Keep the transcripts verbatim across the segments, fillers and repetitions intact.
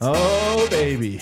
Oh, baby.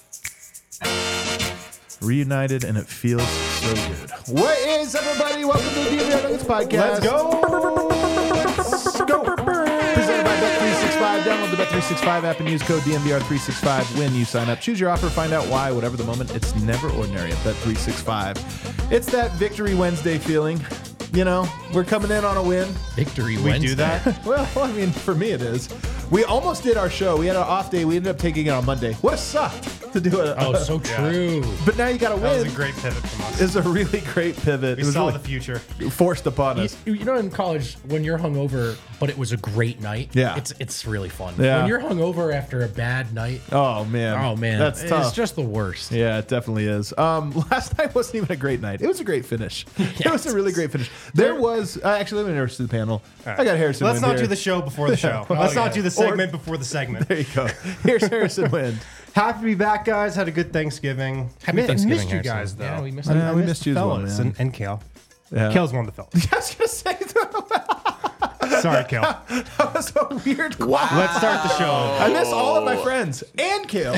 Reunited, and it feels so good. What is, everybody? Welcome to the D M V R Nuggets podcast. Let's go. Let's go. Presented by Bet three sixty-five. Download the Bet three sixty-five app and use code D M V R three sixty-five when you sign up. Choose your offer, find out why. Whatever the moment, it's never ordinary at Bet three sixty-five. It's that Victory Wednesday feeling. You know, we're coming in on a win. Victory We Wednesday. do that. Well, I mean, for me it is. We almost did our show. We had an off day. We ended up taking it on Monday. What a sucked to do it. Oh, so true. But now you got to That win. was a great pivot from us. It's a really great pivot. We it was saw really the future. forced upon You, us. you know, in college, when you're hungover, but it was a great night. Yeah. it's it's really fun. Yeah. When you're hungover after a bad night, Oh man. oh man, that's it's tough. just the worst. Yeah, it definitely is. Um, last night wasn't even a great night. It was a great finish. It was a really great finish. There was uh, actually, let me introduce the panel. right. I got Harrison. Let's Wind not here. do the show before the show. Let's yeah. not do the segment before the segment. There you go. Here's Harrison Wind. Happy to be back, guys. Had a good Thanksgiving. Happy Mi- Thanksgiving, Missed you Harrison. guys, though. Yeah, we missed I- you. Yeah, I we missed missed you as the well, fellas man. and, and Kale. Yeah. Kale's one of the fellas. I was gonna say that Sorry, Kale. was a weird. Wow. Let's start the show. I miss all of my friends and Kale.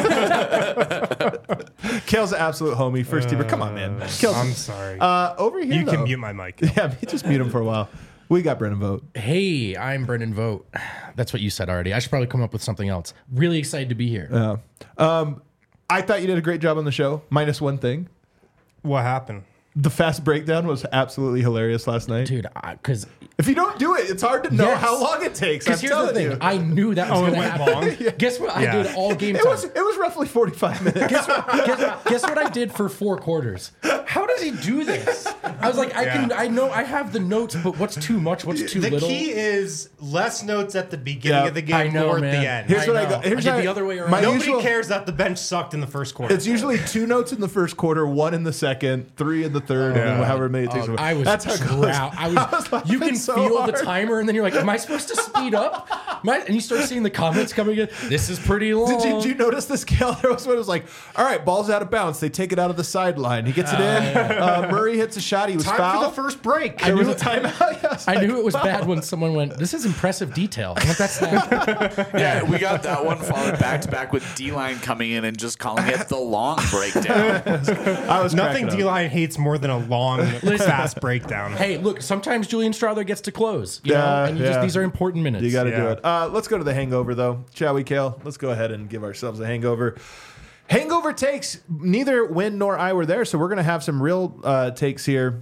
Kale's an absolute homie, first teamer. Come on, man. Kale's, I'm sorry. uh, over here, you can though- mute my mic. Yeah, just mute him for a while. We got Brennan Vogt. Hey, I'm Brendan Vogt. That's what you said already. I should probably come up with something else. Really excited to be here. Uh, um, I thought you did a great job on the show, minus one thing. What happened? The fast breakdown was absolutely hilarious last night. Dude, because If you don't do it, it's hard to know Yes. how long it takes. I'm here's the telling thing, you. I knew that was Oh, it going to went happen. long? Guess what? Yeah. I did all game It time. was it was roughly forty-five minutes. guess, guess, guess what I did for four quarters? How does he do this? I was like, I can, Yeah. I know I have the notes, but what's too much? What's too The little? key is less notes at the beginning Yeah. of the game, I know, more at man. the end. Here's I what I know. got. Here's I did how- the other way around. my Nobody usual- cares that the bench sucked in the first quarter. It's usually two notes in the first quarter, one in the second, three in the third, and then Yeah. however many it takes. Oh, I was That's how it goes. drow- I was, I was you laughing can so feel hard. the timer, and then you're like, "Am I supposed to speed up?" Am I- and you start seeing the comments coming in. This is pretty long. Did you, did you notice the scale? There was one. It was like, all right, ball's out of bounds. They take it out of the sideline. He gets it in. Uh, Murray hits a shot. He was Time fouled. for the first break. There was knew a it- timeout. Yes, I like, knew it was wow. bad when someone went, "This is impressive detail." I'm like, that's not. Yeah, we got that one followed back to back with D-Line coming in and just calling it the long breakdown. I was Nothing cracking up. D-line hates more than a long, fast breakdown. Hey, look, sometimes Julian Strother gets to close. You Yeah, know, and you yeah. just these are important minutes. You got to do Yeah. it. Uh, let's go to the hangover, though. Shall we, Kale? Let's go ahead and give ourselves a hangover. Hangover takes. Neither Win nor I were there, so we're going to have some real uh, takes here.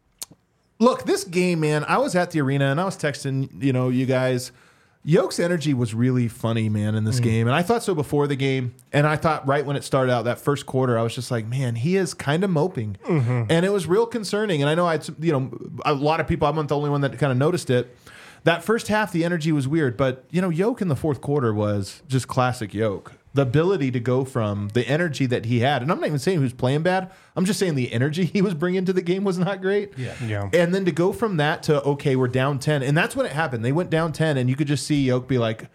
Look, this game, man, I was at the arena, and I was texting, you know, you guys. Yoke's energy was really funny, man, in this game. And I thought so before the game. And I thought right when it started out, that first quarter, I was just like, man, he is kind of moping. And it was real concerning. And I know I had, some- you know, a lot of people, I'm not the only one that kind of noticed it. That first half, the energy was weird. But, you know, Yoke in the fourth quarter was just classic Yoke. The ability to go from the energy that he had. And I'm not even saying he was playing bad. I'm just saying the energy he was bringing to the game was not great. Yeah. Yeah. And then to go from that to, okay, we're down ten. And that's when it happened. They went down ten, and you could just see Yoke be like,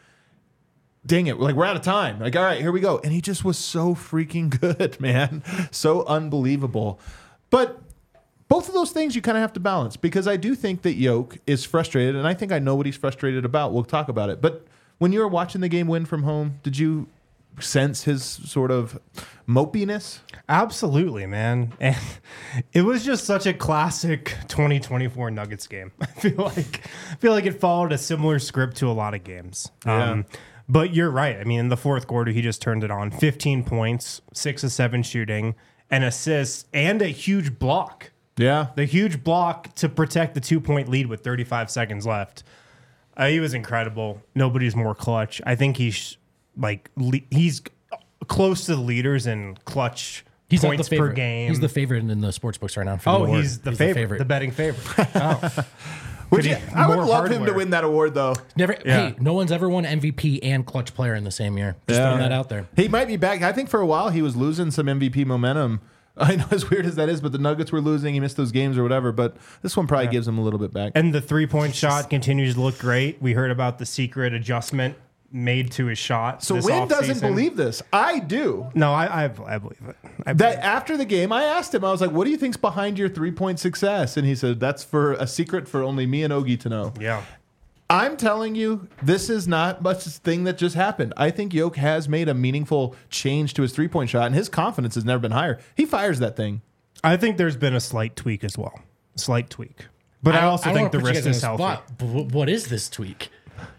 dang it, like, we're out of time. Like, all right, here we go. And he just was so freaking good, man. So unbelievable. But both of those things you kind of have to balance, because I do think that Yoke is frustrated, and I think I know what he's frustrated about. We'll talk about it. But when you were watching the game win from home, did you sense his sort of mopiness? Absolutely, man. And it was just such a classic twenty twenty-four Nuggets game. I feel like I feel like it followed a similar script to a lot of games. Yeah. Um, but you're right. I mean, in the fourth quarter, he just turned it on. fifteen points, six of seven shooting, an assist, and a huge block. Yeah. The huge block to protect the two-point lead with thirty-five seconds left. Uh, he was incredible. Nobody's more clutch. I think he's like le- he's close to the leaders in clutch He's not points the per favorite. game. He's the favorite in the sports books right now. For oh, the award. he's the favorite, the betting favorite. Oh, Would Could you, he- I would more love him to hardware. win that award, though. Never. Yeah. Hey, no one's ever won M V P and clutch player in the same year. Just throwing that out there. He might be back. I think for a while he was losing some M V P momentum. I know, as weird as that is, but the Nuggets were losing. He missed those games or whatever. But this one probably gives him a little bit back. and the three-point shot continues to look great. We heard about the secret adjustment made to his shot. So this Wynn doesn't offseason. believe this. I do. No, I, I, I believe it. I believe That after the game, I asked him, I was like, what do you think's behind your three-point success? And he said, that's for a secret for only me and Ogie to know. it. Yeah. I'm telling you, this is not much thing that just happened. I think Yoke has made a meaningful change to his three-point shot, and his confidence has never been higher. He fires that thing. I think there's been a slight tweak as well. Slight tweak. But I, don't- also don't think the wanna put you wrist guys is on the healthy. spot, but wh- what is this tweak?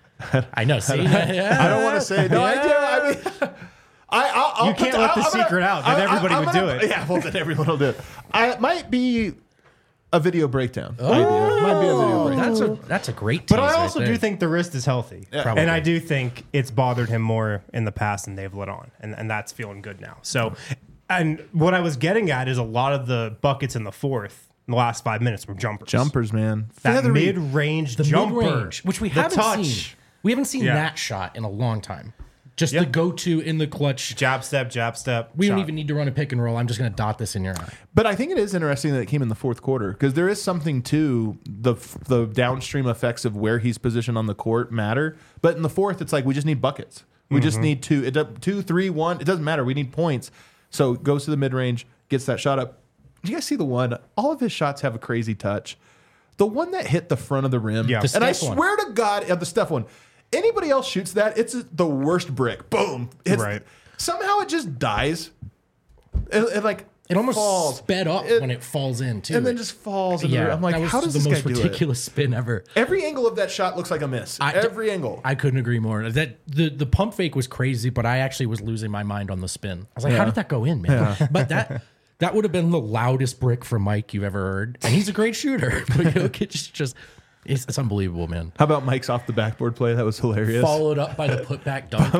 I know. See, I don't want to say. No, I do. I mean, I, I'll, I'll You put can't let the I'm gonna- secret out. Then I- I- everybody I'm would gonna- do it. Yeah, well, then everyone will do it. I, it might be a video breakdown. idea. Might be a video breakdown. that's a that's a great. But tease I right also there. do think the wrist is healthy. Probably. And I do think it's bothered him more in the past than they've let on. And, and that's feeling good now. So, and what I was getting at is a lot of the buckets in the fourth, in the last five minutes, were jumpers. Jumpers, man. That Feathery. mid-range the jumper. mid-range, which we the haven't touch. seen. We haven't seen Yeah. that shot in a long time. Just Yeah. the go-to in the clutch. Jab step, jab step. We don't shot. even need to run a pick and roll. I'm just going to dot this in your eye. But I think it is interesting that it came in the fourth quarter because there is something to the the downstream effects of where he's positioned on the court matter. But in the fourth, it's like we just need buckets. We Mm-hmm. just need two, it, do- two, three, one. It doesn't matter. We need points. So goes to the mid range, gets that shot up. Did you guys see the one? All of his shots have a crazy touch. The one that hit the front of the rim. Yeah. The and I Steph one. swear to God, yeah, the Steph one. Anybody else shoots that, it's the worst brick. Boom. It's, Right. Somehow it just dies. It, it like It almost falls. sped up It- when it falls in too. and then just falls. In the, yeah, I'm like, that was how does the this most guy do it? ridiculous spin ever. Every angle of that shot looks like a miss. I- Every angle. I couldn't agree more. That the the pump fake was crazy, but I actually was losing my mind on the spin. I was like, Yeah. how did that go in, man? But that that would have been the loudest brick from Mike you've ever heard, and he's a great shooter. But Jokic is just it's, it's unbelievable, man. How about Mike's off the backboard play? That was hilarious. Followed up by the putback dunk.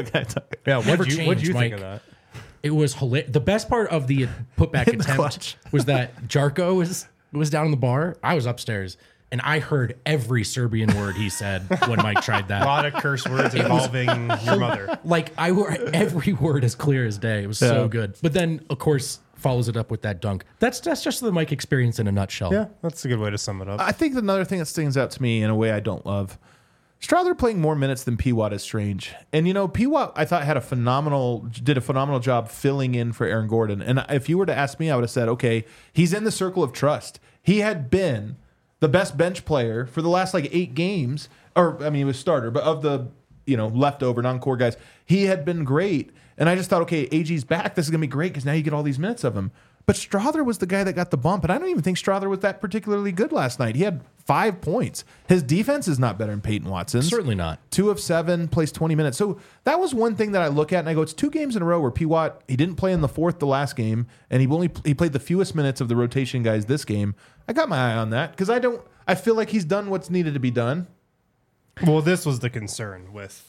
Yeah, Never what'd you, what'd changed, you think Mike. of that? It was hilarious. The best part of the putback In the attempt clutch. was that Jarko was was down in the bar. I was upstairs, and I heard every Serbian word he said when Mike tried A that. lot of curse words involving your mother. Like I heard every word as clear as day. It was Yeah. so good. But then, of course, follows it up with that dunk. That's that's just the Mike experience in a nutshell. Yeah, that's a good way to sum it up. I think another thing that stands out to me in a way I don't love. Strother playing more minutes than P. Watt is strange. And, you know, P. Watt, I thought, had a phenomenal, did a phenomenal job filling in for Aaron Gordon. And if you were to ask me, I would have said, okay, he's in the circle of trust. He had been the best bench player for the last like eight games, or, I mean, he was starter, but of the, you know, leftover non-core guys, he had been great. And I just thought, okay, A G's back. This is going to be great because now you get all these minutes of him. But Strother was the guy that got the bump, and I don't even think Strother was that particularly good last night. He had five points. His defense is not better than Peyton Watson's. Certainly not. Two of seven, plays twenty minutes. So that was one thing that I look at, and I go, it's two games in a row where P. Watt, he didn't play in the fourth the last game, and he only he played the fewest minutes of the rotation guys this game. I got my eye on that because I don't. I feel like he's done what's needed to be done. Well, this was the concern with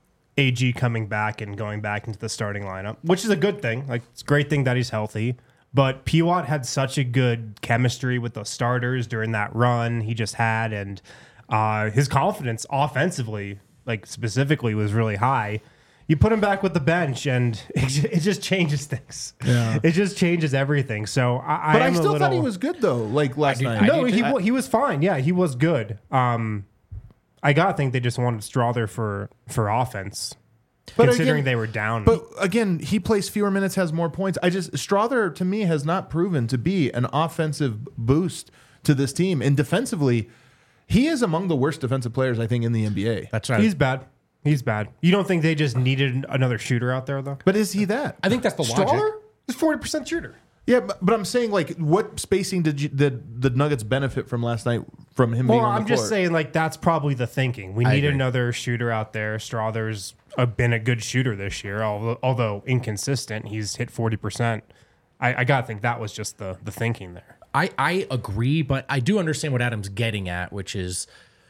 A G coming back and going back into the starting lineup, which is a good thing. Like, it's a great thing that he's healthy. But P. Watt had such a good chemistry with the starters during that run he just had, and uh, his confidence offensively, like specifically, was really high. You put him back with the bench, and it, ju- it just changes things. Yeah. It just changes everything. So I, But I, am a still little, thot he was good though. Like last do- night. I no, do he too. wa- he was fine. Yeah, he was good. Um, I gotta think they just wanted Strother for for offense, But considering again- they were down. But again, he plays fewer minutes, has more points. I just Strother to me has not proven to be an offensive boost to this team, and defensively, he is among the worst defensive players I think in the N B A. That's right. he's bad. He's bad. You don't think they just needed another shooter out there though? But is he that? I think that's the logic. Strother is forty percent shooter. Yeah, but, but I'm saying like, what spacing did you, did the Nuggets benefit from last night from him being Well, on the I'm just court? saying like that's probably the thinking. We I need agree. another shooter out there. Strother's uh, been a good shooter this year, although, although inconsistent. He's hit forty percent. I, I gotta think that was just the the thinking there. I, I agree, but I do understand what Adam's getting at, which is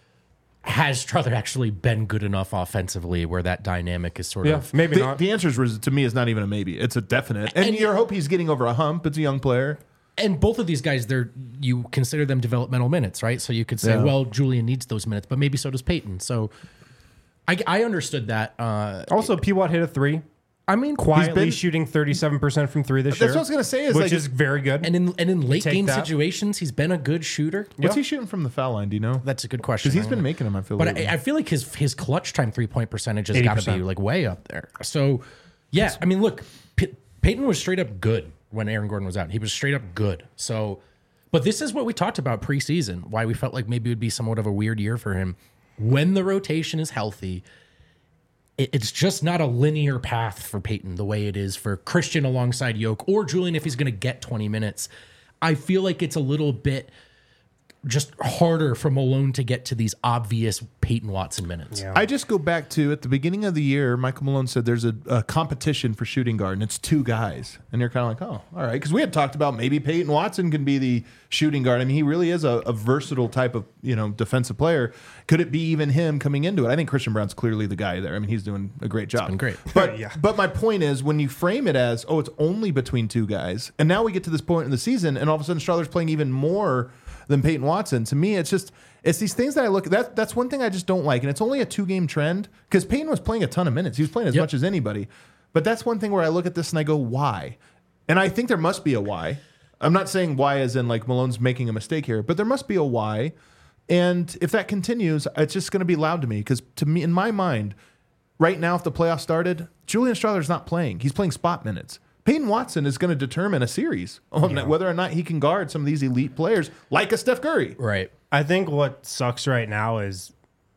has Strother actually been good enough offensively where that dynamic is sort of maybe The, not. the answer is to me is not even a maybe. It's a definite. And, And- you hope he's getting over a hump. It's a young player. and both of these guys, they're you consider them developmental minutes, right? So you could say, Yeah. well, Julian needs those minutes, but maybe so does Peyton. So I, I understood that. Uh, Also, P. Watt hit a three. I mean, Quietly been- shooting thirty-seven percent from three this That's year. what I was gonna say is, which like- is very good. and in and in late take game that. situations, he's been a good shooter. What's Yeah. he shooting from the foul line? Do you know? That's a good question. Because he's I been don't know. making them. I feel. But lately. I, I feel like his his clutch time three point percentage has got to be eighty percent. like way up there. So yeah, I mean, look, P- Peyton was straight up good when Aaron Gordon was out. He was straight up good. So, but this is what we talked about preseason. Why we felt like maybe it would be somewhat of a weird year for him. when the rotation is healthy, it, it's just not a linear path for Peyton the way it is for Christian alongside Yoke or Julian if he's going to get twenty minutes. I feel like it's a little bit just harder for Malone to get to these obvious Peyton Watson minutes. Yeah. I just go back to at the beginning of the year, Michael Malone said there's a, a competition for shooting guard, and it's two guys. And you're kind of like, oh, all right. Because we had talked about maybe Peyton Watson can be the shooting guard. I mean, he really is a, a versatile type of you know defensive player. Could it be even him coming into it? I think Christian Brown's clearly the guy there. I mean, he's doing a great job. been great. But, Yeah. but my point is, when you frame it as, oh, it's only between two guys, and now we get to this point in the season, and all of a sudden Strother's playing even more than Peyton Watson. To me, it's just it's these things that I look at. That, that's one thing I just don't like, and it's only a two game trend because Peyton was playing a ton of minutes. He was playing as Yep. much as anybody. But that's one thing where I look at this and I go, why? And I think there must be a why. I'm not saying why as in like Malone's making a mistake here, but there must be a why. And if that continues, it's just going to be loud to me because to me, in my mind, right now, if the playoffs started, Julian Strother's not playing. He's playing spot minutes. Peyton Watson is going to determine a series on Yeah. whether or not he can guard some of these elite players like a Steph Curry. Right. I think what sucks right now is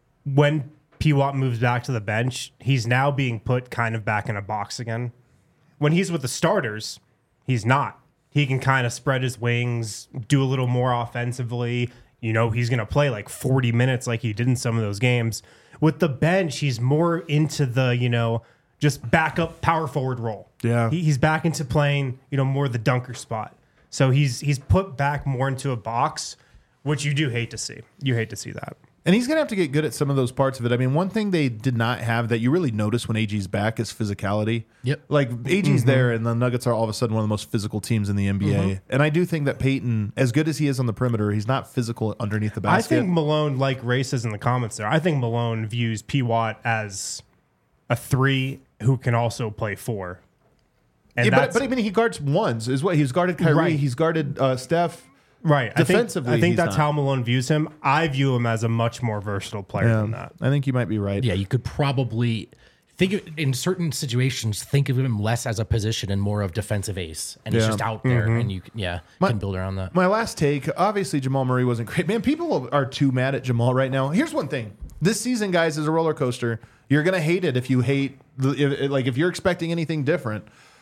when P. Watt moves back to the bench, he's now being put kind of back in a box again. When he's with the starters, he's not. He can kind of spread his wings, do a little more offensively. You know, he's going to play like forty minutes like he did in some of those games. With the bench, he's more into the, you know, just backup power forward role. Yeah. He, he's back into playing, you know, more the dunker spot. So he's he's put back more into a box, which you do hate to see. You hate to see that. And he's going to have to get good at some of those parts of it. I mean, one thing they did not have that you really notice when A G's back is physicality. Yep. Like A G's there, and the Nuggets are all of a sudden one of the most physical teams in the N B A. And I do think that Peyton, as good as he is on the perimeter, he's not physical underneath the I basket. think Malone, like Ray says in the comments there, I think Malone views P. Watt as a three who can also play four. And yeah, but, that's but I mean, he guards ones. Is what he's guarded Kyrie. Right. He's guarded uh, Steph. right. defensively, I think, I think he's that's not. how Malone views him. I view him as a much more versatile player than that. I think you might be right. Yeah, you could probably think of, in certain situations, think of him less as a position and more of defensive ace. And he's Yeah. just out there and you can, yeah, can build around that. My last take, obviously Jamal Murray wasn't great. Man, people are too mad at Jamal right now. Here's one thing. This season, guys, is a roller coaster. You're going to hate it if you hate, the, if, like if you're expecting anything different.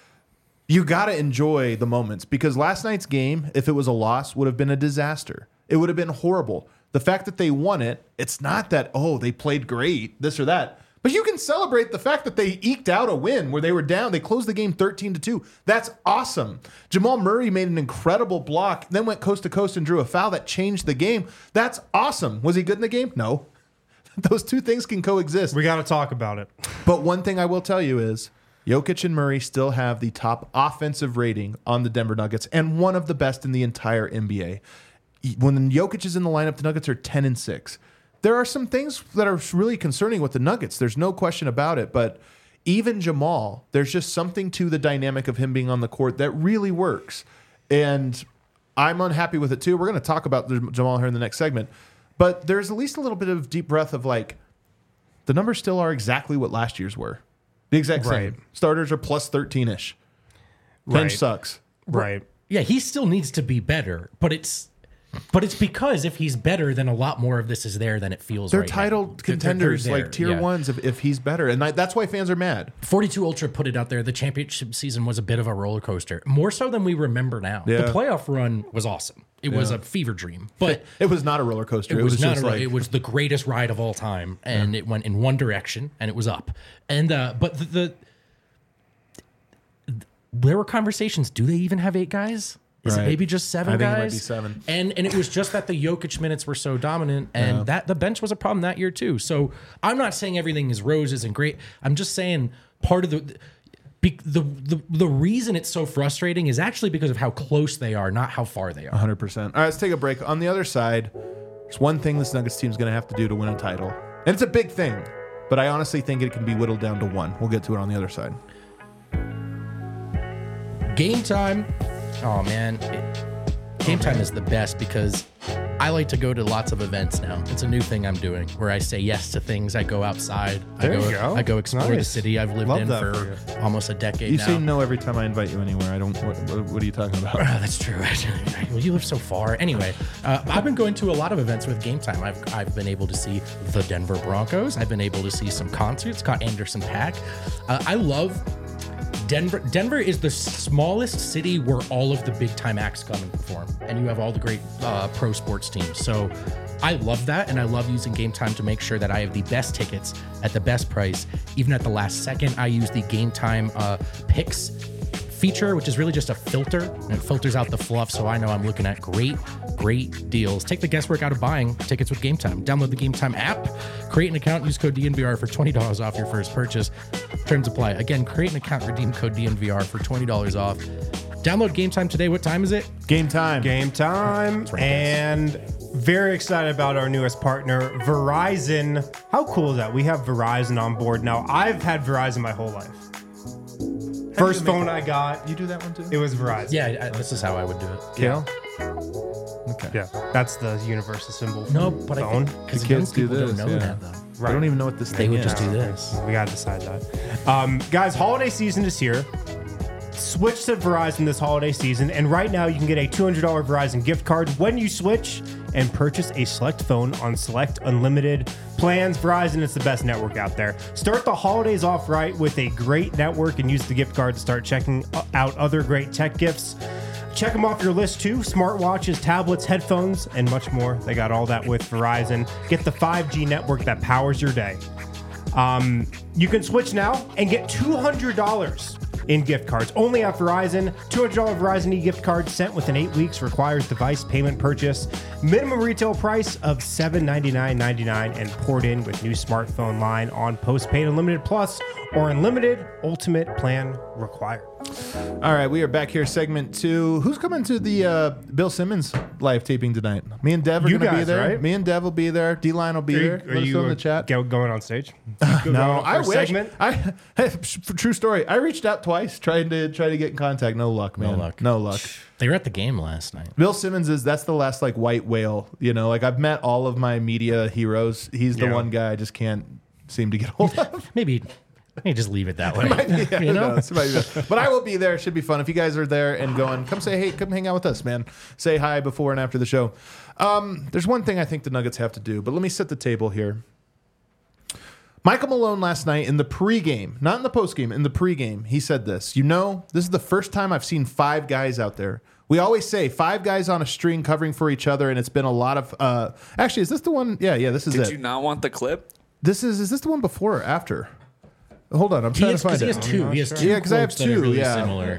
You got to enjoy the moments because last night's game, if it was a loss, would have been a disaster. It would have been horrible. The fact that they won it, it's not that, oh, they played great, this or that. But you can celebrate the fact that they eked out a win where they were down. They closed the game thirteen to two. That's awesome. Jamal Murray made an incredible block, then went coast to coast and drew a foul that changed the game. That's awesome. Was he good in the game? No. Those two things can coexist. We got to talk about it. But one thing I will tell you is Jokic and Murray still have the top offensive rating on the Denver Nuggets and one of the best in the entire N B A. When Jokic is in the lineup, the Nuggets are ten and six. There are some things that are really concerning with the Nuggets. There's no question about it. But even Jamal, there's just something to the dynamic of him being on the court that really works. And I'm unhappy with it too. We're going to talk about Jamal here in the next segment. But there's at least a little bit of deep breath of like, the numbers still are exactly what last year's were. The exact Right. same. Starters are plus thirteen-ish. Bench Right. sucks. Right. Yeah, he still needs to be better, but it's but it's because if he's better, then a lot more of this is there than it feels. They're right now. title They're- they're- contenders, they're like there, tier yeah. ones, if, if he's better. And I, that's why fans are mad. forty-two Ultra put it out there. The championship season was a bit of a roller coaster, more so than we remember now. Yeah. The playoff run was awesome. It was a fever dream, but It was not a roller coaster. it was, not just a, like, it was the greatest ride of all time, and it went in one direction, and it was up. And uh, but the, the there were conversations. Do they even have eight guys? Is Right. it maybe just seven I think it guys? might be seven. And and it was just that the Jokic minutes were so dominant, and that the bench was a problem that year too. So I'm not saying everything is roses and great. I'm just saying part of the. Be, the, the the reason it's so frustrating is actually because of how close they are, not how far they are. one hundred percent. All right, let's take a break. On the other side, there's one thing this Nuggets team is going to have to do to win a title. And it's a big thing, but I honestly think it can be whittled down to one. We'll get to it on the other side. Game time. Oh man, it, game time is the best because I like to go to lots of events now. It's a new thing I'm doing where I say yes to things. I go outside. There I go, you go. I go explore the Nice. city I've lived Love in that for, for almost a decade You now. say no every time I invite you anywhere. I don't. What, what, what are you talking about? Oh, that's true. Well, you live so far. Anyway, uh, I've been going to a lot of events with Game Time. I've, I've been able to see the Denver Broncos. I've been able to see some concerts. Caught Anderson .Paak. Uh, I love Denver. Denver is the smallest city where all of the big time acts come and perform, and you have all the great uh, pro sports teams. So I love that, and I love using Game Time to make sure that I have the best tickets at the best price. Even at the last second, I use the Game Time uh, picks feature, which is really just a filter, and it filters out the fluff, so I know I'm looking at great, great deals. Take the guesswork out of buying tickets with Game Time. Download the Game Time app, create an account, use code D N V R for twenty dollars off your first purchase. Terms apply. Again, create an account, redeem code D N V R for twenty dollars off. Download Game Time today. What time is it? Game time. Game time. right, guys. And very excited about our newest partner, Verizon. How cool is that? We have Verizon on board now. I've had Verizon my whole life. First you make phone I got, You do that one too? it was Verizon. Yeah, I, this is how I would do it. Kale? Okay. Yeah, that's the universal symbol. for No, but I phone. think because The young kids do people this, don't know yeah. that though. I don't even know what this They thing would is. just do this. We gotta decide that. Um, guys, holiday season is here. Switch to Verizon this holiday season, and right now you can get a two hundred dollars Verizon gift card when you switch and purchase a select phone on select unlimited plans. Verizon is the best network out there. Start the holidays off right with a great network and use the gift card to start checking out other great tech gifts. Check them off your list too. Smartwatches, tablets, headphones, and much more. They got all that with Verizon. Get the five G network that powers your day. Um, you can switch now and get two hundred dollars in gift cards only at Verizon. two hundred dollars Verizon e-gift card sent within eight weeks requires device payment purchase. Minimum retail price of seven hundred ninety-nine dollars and ninety-nine cents and poured in with new smartphone line on postpaid Unlimited Plus or Unlimited Ultimate plan required. All right, we are back here, segment two. Who's coming to the uh, Bill Simmons live taping tonight? Me and Dev are You going to be guys, there. right? Me and Dev will be there. D-Line will be there. Let us know in the chat. go- going on stage? No, I First wish. segment? I true story. I reached out twice trying to try to get in contact. No luck, man. luck. No luck. They were at the game last night. Bill Simmons is that's the last like white whale. You know, like I've met all of my media heroes. He's the Yeah. one guy I just can't seem to get hold of. Maybe, maybe just leave it that way. Yeah, you who know? knows? Might be bad. But I will be there. Should be fun. If you guys are there and going, come say hey, come hang out with us, man. Say hi before and after the show. Um, there's one thing I think the Nuggets have to do, but let me set the table here. Michael Malone last night in the pregame, not in the postgame, in the pregame, he said this. You know, this is the first time I've seen five guys out there. We always say five guys on a string covering for each other, and it's been a lot of. Uh, actually, is this the one? Yeah, yeah, this is Did it. you not want the clip? This is is this the one before or after? Hold on, I'm He trying has, to find he it. has two. He has two. Yeah, 'cause I have quotes that are two, Really yeah. similar.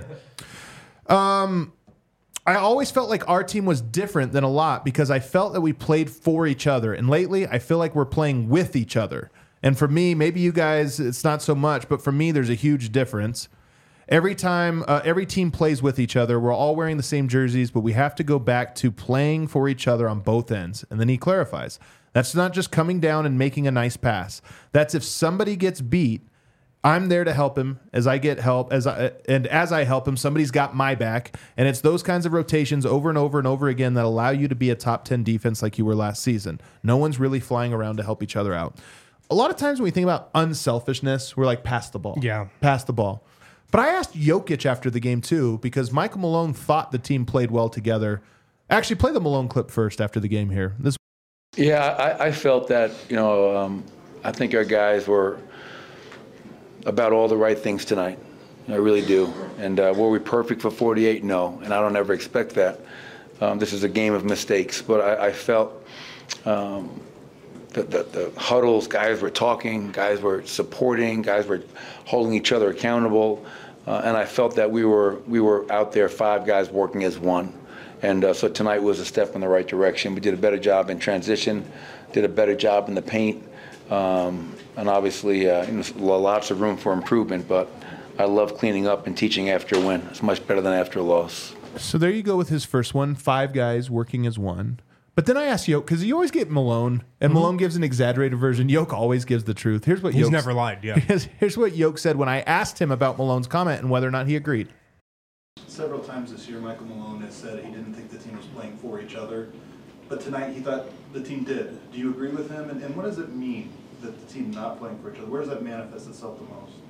I always felt like our team was different than a lot because I felt that we played for each other. And lately, I feel like we're playing with each other. And for me, maybe you guys, it's not so much, but for me, there's a huge difference. Every time, uh, every team plays with each other. We're all wearing the same jerseys, but we have to go back to playing for each other on both ends. And then he clarifies that's not just coming down and making a nice pass. That's if somebody gets beat, I'm there to help him as I get help as I and as I help him, somebody's got my back. And it's those kinds of rotations over and over and over again that allow you to be a top ten defense like you were last season. No one's really flying around to help each other out. A lot of times when we think about unselfishness, we're like, pass the ball. Yeah. Pass the ball. But I asked Jokic after the game too, because Michael Malone thought the team played well together. Actually, play the Malone clip first after the game here. This Yeah, I, I felt that, you know, um, I think our guys were about all the right things tonight. I really do. And uh, were we perfect for forty-eight? No, and I don't ever expect that. Um, this is a game of mistakes, but I, I felt um, that the, the huddles, guys were talking, guys were supporting, guys were holding each other accountable, uh, and I felt that we were we were out there, five guys working as one. And uh, so tonight was a step in the right direction. We did a better job in transition, did a better job in the paint, um, and obviously uh, you know, lots of room for improvement, but I love cleaning up and teaching after a win. It's much better than after a loss. So there you go with his first one, five guys working as one. But then I asked Yoke, because you always get Malone, and Mm-hmm. Malone gives an exaggerated version. Yoke always gives the truth. Here's what He's Yoke never lied, yeah. Here's, here's what Yoke said when I asked him about Malone's comment and whether or not he agreed. Several times this year, Michael Malone has said he didn't think the team was playing for each other. but tonight he thought the team did. Do you agree with him? And, and what does it mean that the team not playing for each other? Where does that manifest itself the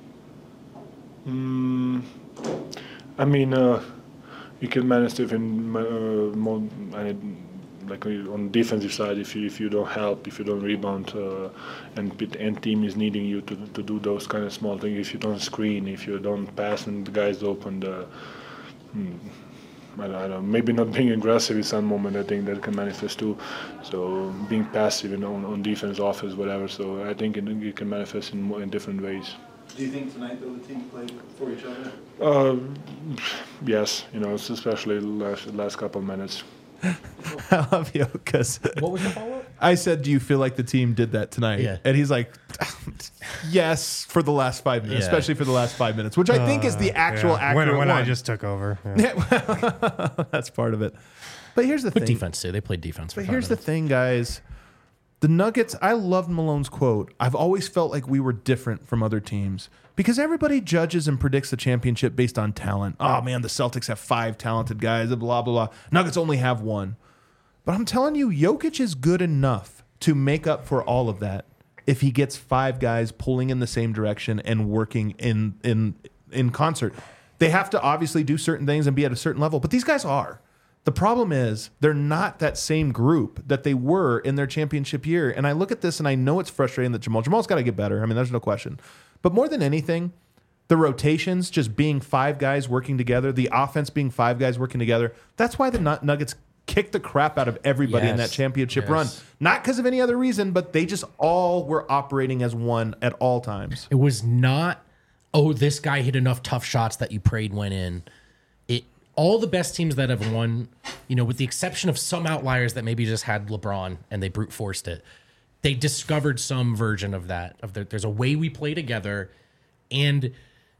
most? Mm, I mean, uh, you can manage it in uh, more, uh, like on the defensive side. If you if you don't help, if you don't rebound, uh, and the end team is needing you to to do those kind of small things. If you don't screen, if you don't pass, and the guys open the. Hmm, I don't know, maybe not being aggressive in some moment, I think that can manifest too. So being passive, you know, on, on defense, offense, whatever. So I think it, it can manifest in more, in different ways. Do you think tonight, though, the team played for each other? Uh, yes, you know, especially the last, last couple of minutes. I love you because What was the follow-up? I said, "Do you feel like the team did that tonight?" Yeah. And he's like, "Yes, for the last five minutes, Yeah. especially for the last five minutes," which I think is the actual Yeah. accurate when, when one. I just took over. Yeah. Yeah, that's part of it. But here's the Good thing. defense too. They played defense. For But five here's the minutes. thing, guys. The Nuggets, I loved Malone's quote. I've always felt like we were different from other teams because everybody judges and predicts the championship based on talent. Oh, man, the Celtics have five talented guys, blah, blah, blah. Nuggets only have one. But I'm telling you, Jokic is good enough to make up for all of that if he gets five guys pulling in the same direction and working in in in concert. They have to obviously do certain things and be at a certain level, but these guys are. The problem is they're not that same group that they were in their championship year. And I look at this and I know it's frustrating that Jamal Jamal's got to get better. I mean, there's no question. But more than anything, the rotations just being five guys working together, the offense being five guys working together, that's why the Nuggets kicked the crap out of everybody in Yes. that championship Yes. run. Not because of any other reason, but they just all were operating as one at all times. It was not, oh, this guy hit enough tough shots that you prayed went in. It all the best teams that have won, you know, with the exception of some outliers that maybe just had LeBron and they brute forced it, they discovered some version of that. Of the, there's a way we play together, and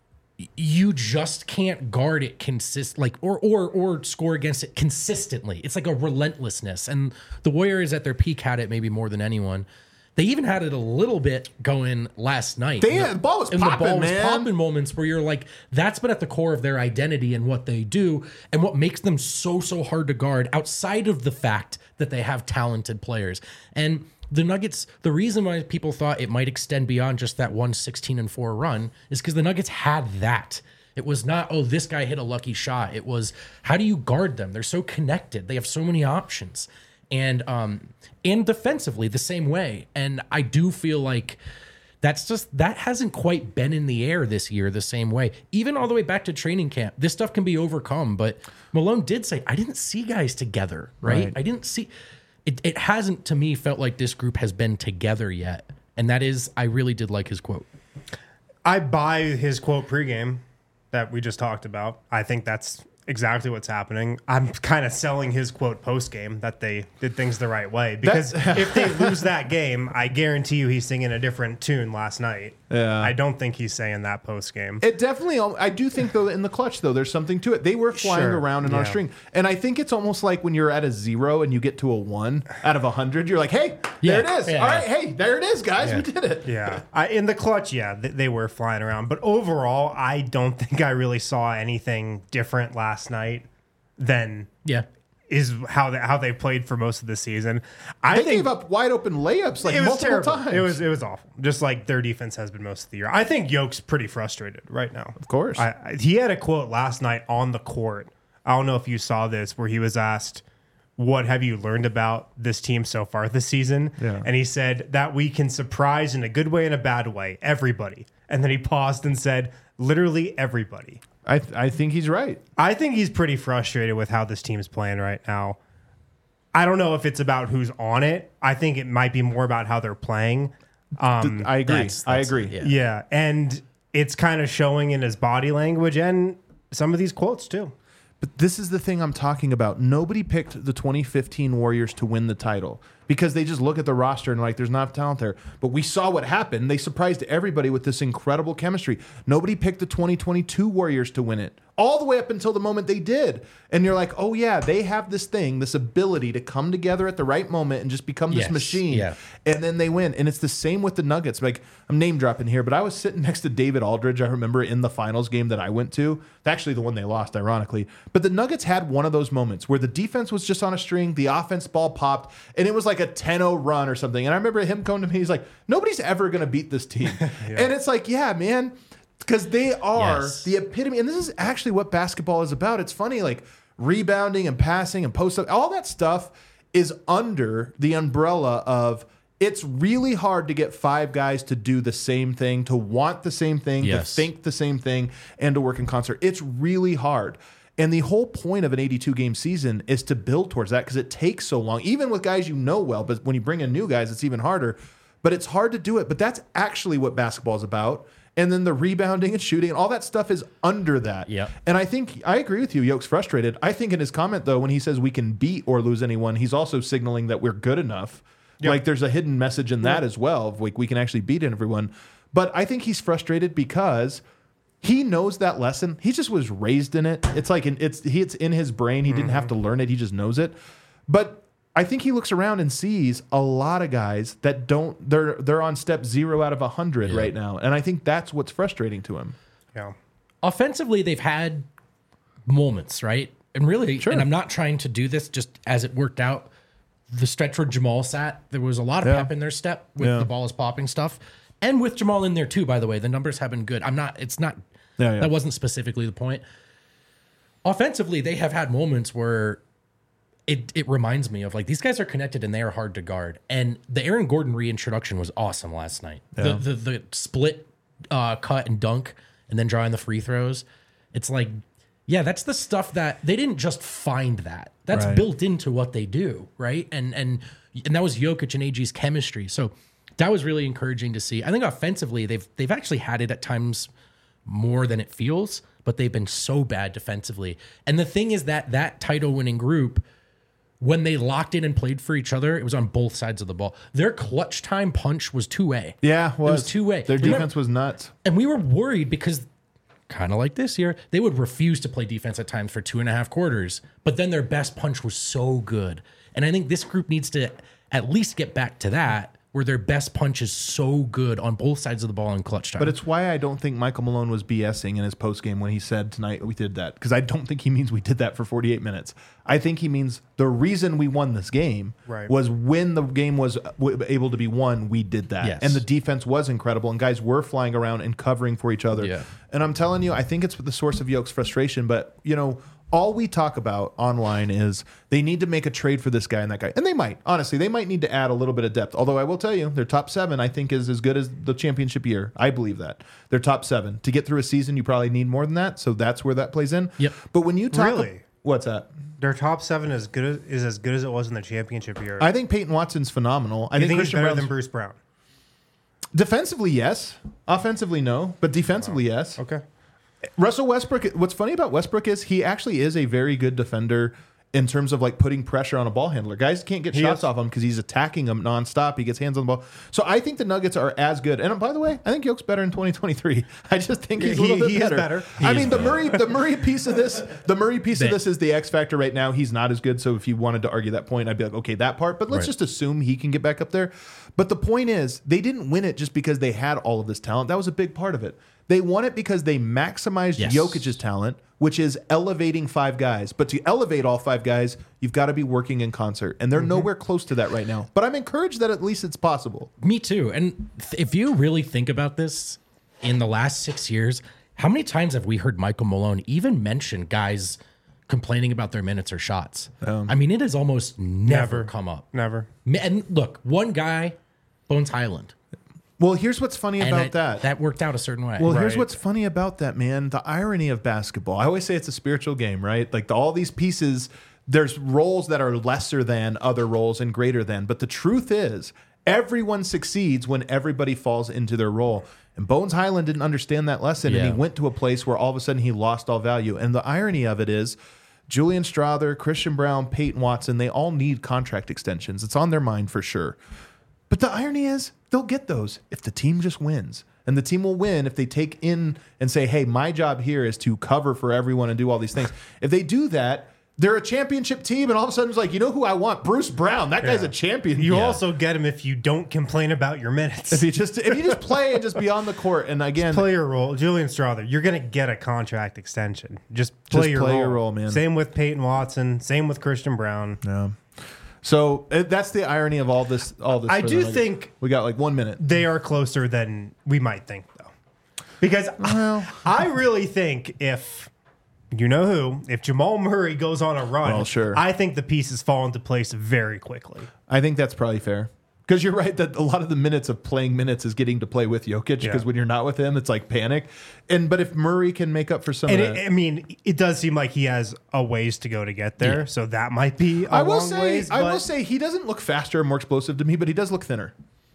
you just can't guard it consist like or or or score against it consistently. It's like a relentlessness, and the Warriors at their peak had it maybe more than anyone. They even had it a little bit going last night. They- And the ball was and popping, the ball was man. popping moments where you're like, that's been at the core of their identity and what they do, and what makes them so so hard to guard outside of the fact that they have talented players. And the Nuggets, the reason why people thought it might extend beyond just that one sixteen and four run is because the Nuggets had that. It was not, oh, this guy hit a lucky shot. It was, how do you guard them? They're so connected. They have so many options. And um and defensively the same way. And I do feel like that's just, that hasn't quite been in the air this year the same way. Even all the way back to training camp, this stuff can be overcome. But Malone did say, I didn't see guys together, right? Right. I didn't see, it, it hasn't to me felt like this group has been together yet. And that is, I really did like his quote. I buy his quote pregame that we just talked about. I think that's exactly what's happening. I'm kind of selling his quote postgame that they did things the right way, because if they lose that game, I guarantee you he's singing a different tune last night. Yeah. I don't think he's saying that postgame. It definitely, I do think though, in the clutch though, there's something to it. They were flying Sure, around and on a yeah. string, and I think it's almost like when you're at a zero and you get to a one out of a hundred, you're like, hey, Yeah, there it is. yeah. All right, hey, there it is, guys, we did it. Yeah, I, in the clutch, yeah, th- they were flying around. But overall, I don't think I really saw anything different last night than Yeah. is how they, how they played for most of the season. I They think gave up wide open layups like it was multiple terrible. times. It was it was awful. Just like their defense has been most of the year. I think Yoke's pretty frustrated right now. Of course. I, I, he had a quote last night on the court. I don't know if you saw this, where he was asked, "What have you learned about this team so far this season?" Yeah. And he said that we can surprise in a good way and a bad way everybody. And then he paused and said, "Literally everybody." I, th- I think he's right. I think he's pretty frustrated with how this team's playing right now. I don't know if it's about who's on it. I think it might be more about how they're playing. Um, I agree. That's- I that's- agree. yeah. yeah, and it's kind of showing in his body language and some of these quotes too. But this is the thing I'm talking about. Nobody picked the twenty fifteen Warriors to win the title. because they just look at the roster and like there's not talent there. But we saw what happened. They surprised everybody with this incredible chemistry. Nobody picked the twenty twenty-two Warriors to win it, all the way up until the moment they did. And you're like, oh yeah, they have this thing, this ability to come together at the right moment and just become this Yes, machine. yeah. And then they win. And it's the same with the Nuggets. Like, I'm name dropping here, but I was sitting next to David Aldridge, I remember, in the finals game that I went to. It's actually the one they lost, ironically. But the Nuggets had one of those moments where the defense was just on a string, the offense ball popped, and it was like a ten oh run or something. And I remember him coming to me, he's like, nobody's ever going to beat this team. And it's like, yeah, man, because they are Yes. the epitome. And this is actually what basketball is about. It's funny, like rebounding and passing and post up, all that stuff is under the umbrella of it's really hard to get five guys to do the same thing, to want the same thing, Yes. to think the same thing, and to work in concert. It's really hard. And the whole point of an eighty-two game season is to build towards that because it takes so long, even with guys you know well. But when you bring in new guys, it's even harder. But it's hard to do it. But that's actually what basketball is about. And then the rebounding and shooting and all that stuff is under that. Yep. And I think I agree with you. Yoke's frustrated. I think in his comment, though, when he says we can beat or lose anyone, he's also signaling that we're good enough. Yep. Like there's a hidden message in that as well. Of like we can actually beat everyone. But I think he's frustrated because he knows that lesson. He just was raised in it. It's like in, it's he, it's in his brain. He didn't have to learn it. He just knows it. But I think he looks around and sees a lot of guys that don't. They're they're on step zero out of a hundred right now, and I think that's what's frustrating to him. Yeah. Offensively, they've had moments, right? And really, Sure. and I'm not trying to do this just as it worked out. The stretch where Jamal sat, there was a lot of Yeah. pep in their step with Yeah. the ball is popping stuff. And with Jamal in there too, by the way, the numbers have been good. I'm not, it's not, Yeah, yeah. that wasn't specifically the point. Offensively, they have had moments where it, it reminds me of like these guys are connected and they are hard to guard. And the Aaron Gordon reintroduction was awesome last night. The, the the split uh, cut and dunk and then drawing the free throws. It's like, yeah, that's the stuff that they didn't just find that. That's Right. built into what they do, right? And and and that was Jokic and A G's chemistry. So that was really encouraging to see. I think offensively, they've they've actually had it at times more than it feels, but they've been so bad defensively. And the thing is that that title winning group, when they locked in and played for each other, it was on both sides of the ball. Their clutch time punch was two way. Yeah, it was two way. Their defense was nuts. And we were worried because, kind of like this year, they would refuse to play defense at times for two and a half quarters. But then their best punch was so good. And I think this group needs to at least get back to that, where their best punch is so good on both sides of the ball in clutch time. But it's why I don't think Michael Malone was BSing in his postgame when he said tonight we did that. Because I don't think he means we did that for forty-eight minutes. I think he means the reason we won this game Right. was when the game was w- able to be won, we did that. Yes. And the defense was incredible, and guys were flying around and covering for each other. Yeah. And I'm telling you, I think it's the source of Yoke's frustration. But, you know, all we talk about online is they need to make a trade for this guy and that guy. And they might. Honestly, they might need to add a little bit of depth. Although I will tell you, their top seven, I think, is as good as the championship year. I believe that. Their top seven. To get through a season, you probably need more than that. So that's where that plays in. Yep. But when you talk... Really? What's that? Their top seven is good as, is as good as it was in the championship year. I think Peyton Watson's phenomenal. I I think, think he's Christian better Brown's... than Bruce Brown. Defensively, yes. Offensively, no. But defensively, yes. Okay. Russell Westbrook, what's funny about Westbrook is he actually is a very good defender in terms of like putting pressure on a ball handler. Guys can't get He shots is. off him because he's attacking them nonstop. He gets hands on the ball. So I think the Nuggets are as good. And by the way, I think Yoke's better in twenty twenty-three. I just think he's He- a little bit he is better. better. I He mean, is the Murray, the Murray piece of this, the Murray piece of That- this is the X factor right now. He's not as good. So if you wanted to argue that point, I'd be like, okay, that part. But let's Right. just assume he can get back up there. But the point is, they didn't win it just because they had all of this talent. That was a big part of it. They won it because they maximized Yes. Jokic's talent, which is elevating five guys. But to elevate all five guys, you've got to be working in concert. And they're nowhere close to that right now. But I'm encouraged that at least it's possible. Me too. And th- if you really think about this, in the last six years, how many times have we heard Michael Malone even mention guys complaining about their minutes or shots? I mean, it has almost never, Never. come up. Never. Ma- And look, one guy, Bones Highland. Well, here's what's funny And about it- that. that worked out a certain way. Well, here's Right. what's funny about that, man. The irony of basketball. I always say it's a spiritual game, right? Like the, all these pieces, there's roles that are lesser than other roles and greater than. But the truth is, everyone succeeds when everybody falls into their role. And Bones Highland didn't understand that lesson, and Yeah. he went to a place where all of a sudden he lost all value. And the irony of it is, Julian Strother, Christian Brown, Peyton Watson, they all need contract extensions. It's on their mind for sure. But the irony is they'll get those if the team just wins. And the team will win if they take in and say, hey, my job here is to cover for everyone and do all these things. If they do that, they're a championship team, and all of a sudden it's like, you know who I want? Bruce Brown. That guy's Yeah. a champion. You Yeah. also get him if you don't complain about your minutes. If you just if you just play and just be on the court, and again, play your role. Julian Strother, you're going to get a contract extension. Just play, Just your, play role. your role, man. Same with Peyton Watson. Same with Christian Brown. yeah. So uh, that's the irony of all this. All this. I for do the- think we got like one minute. they are closer than we might think, though. Because I, I really think if, you know who, if Jamal Murray goes on a run, Well, sure. I think the pieces fall into place very quickly. I think that's probably fair. Because you're right that a lot of the minutes of playing minutes is getting to play with Jokic. Because Yeah. when you're not with him, it's like panic. And but if Murray can make up for some And of it, that, I mean, it does seem like he has a ways to go to get there. So that might be a I will long say, ways. I will but say, he doesn't look faster and more explosive to me, but he does look thinner.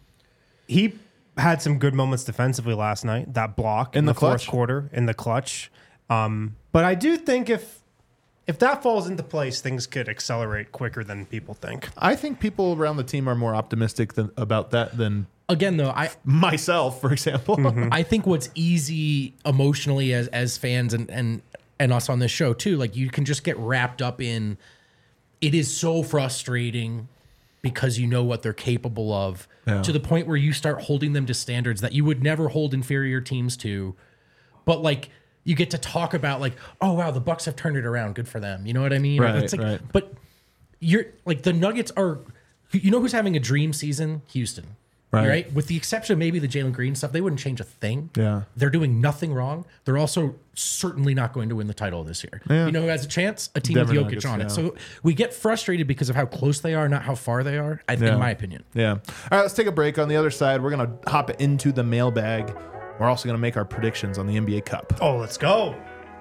he had some good moments defensively last night. That block in, In the, the clutch. fourth quarter in the clutch. Um, but I do think if if that falls into place, things could accelerate quicker than people think. I think people around the team are more optimistic than, about that than Again, though, I myself, for example. I think what's easy emotionally as as fans and and and us on this show too, like you can just get wrapped up in it is so frustrating because you know what they're capable of Yeah. to the point where you start holding them to standards that you would never hold inferior teams to. But like you get to talk about like, oh wow, the Bucks have turned it around. Good for them. You know what I mean? Right, It's like, right. But you're like the Nuggets are. You know who's having a dream season? Houston. Right. Right. With the exception of maybe the Jalen Green stuff, they wouldn't change a thing. Yeah. They're doing nothing wrong. They're also certainly not going to win the title this year. Yeah. You know who has a chance? A team Denver with Jokic Nuggets, on yeah. it. So we get frustrated because of how close they are, not how far they are, I, Yeah. in my opinion. Yeah. All right, let's take a break. On the other side, we're going to hop into the mailbag. We're also going to make our predictions on the N B A Cup. Oh, let's go.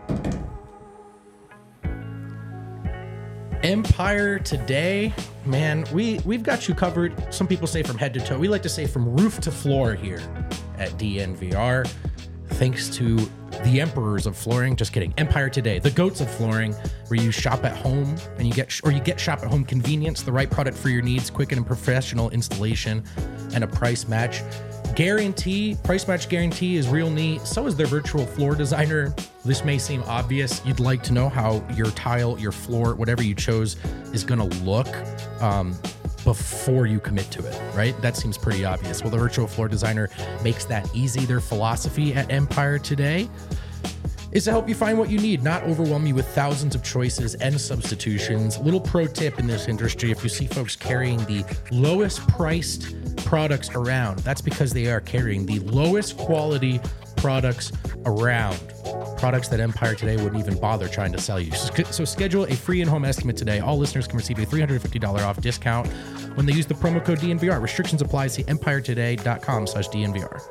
Empire today, man, we, we've got you covered. Some people say from head to toe. We like to say from roof to floor here at D N V R. Thanks to the emperors of flooring. Just kidding. Empire Today, the goats of flooring, where you shop at home and you get, or you get shop at home convenience, the right product for your needs, quick and professional installation, and a price match guarantee. Price match guarantee is real neat. So is their virtual floor designer. This may seem obvious. You'd like to know how your tile, your floor, whatever you chose is going to look um, before you commit to it, right? That seems pretty obvious. Well, the virtual floor designer makes that easy. Their philosophy at Empire Today is to help you find what you need, not overwhelm you with thousands of choices and substitutions. Little pro tip in this industry, if you see folks carrying the lowest priced products around, that's because they are carrying the lowest quality products around. Products that Empire Today wouldn't even bother trying to sell you. So, so schedule a free in-home estimate today. All listeners can receive a three hundred fifty dollars off discount when they use the promo code D N V R. Restrictions apply. See empire today dot com slash D N V R.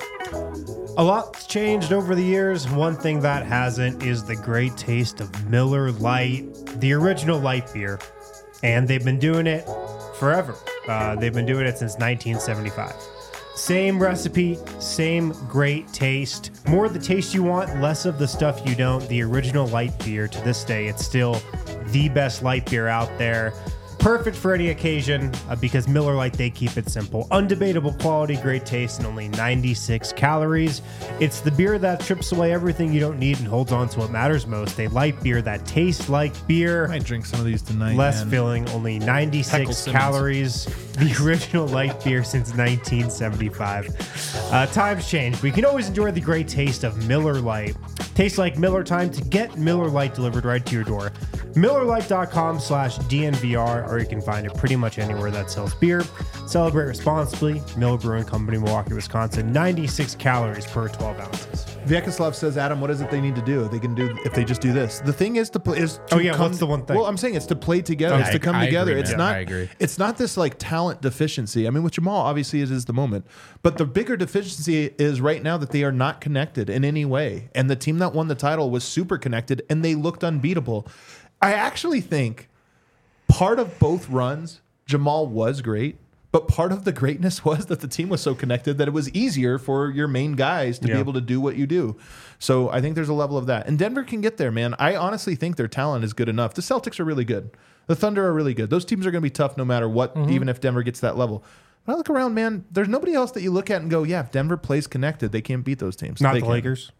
A lot's changed over the years. One thing that hasn't is the great taste of Miller Lite, the original light beer. And they've been doing it forever. Uh, they've been doing it since nineteen seventy-five. Same recipe, same great taste. More of the taste you want, less of the stuff you don't. The original light beer, to this day, it's still the best light beer out there. Perfect for any occasion uh, because Miller Lite, they keep it simple. Undebatable quality, great taste, and only ninety-six calories. It's the beer that strips away everything you don't need and holds on to what matters most. A light beer that tastes like beer. I might drink some of these tonight. Less man. filling, only Heckle ninety-six Simmons. calories. The original light beer since nineteen seventy-five. Uh, times change. We can always enjoy the great taste of Miller Lite. Tastes like Miller time to get Miller Lite delivered right to your door. Miller Lite dot com slash D N V R, or you can find it pretty much anywhere that sells beer. Celebrate responsibly. Miller Brewing Company, Milwaukee, Wisconsin. ninety-six calories per twelve ounces. Vyacheslav says, Adam, what is it they need to do? They can do if they just do this. The thing is to play. Is to Oh, yeah, come- what's the one thing? Well, I'm saying it's to play together. Okay. It's to come I- I together. agree, it's man. not. I agree. It's not this like talent deficiency. I mean, with Jamal, obviously it is the moment, but the bigger deficiency is right now that they are not connected in any way. And the team that won the title was super connected, and they looked unbeatable. I actually think part of both runs, Jamal was great. But part of the greatness was that the team was so connected that it was easier for your main guys to Yeah. be able to do what you do. So I think there's a level of that. And Denver can get there, man. I honestly think their talent is good enough. The Celtics are really good. The Thunder are really good. Those teams are going to be tough no matter what, Mm-hmm. even if Denver gets that level. But I look around, man, there's nobody else that you look at and go, yeah, if Denver plays connected, they can't beat those teams. Not They the can. Lakers.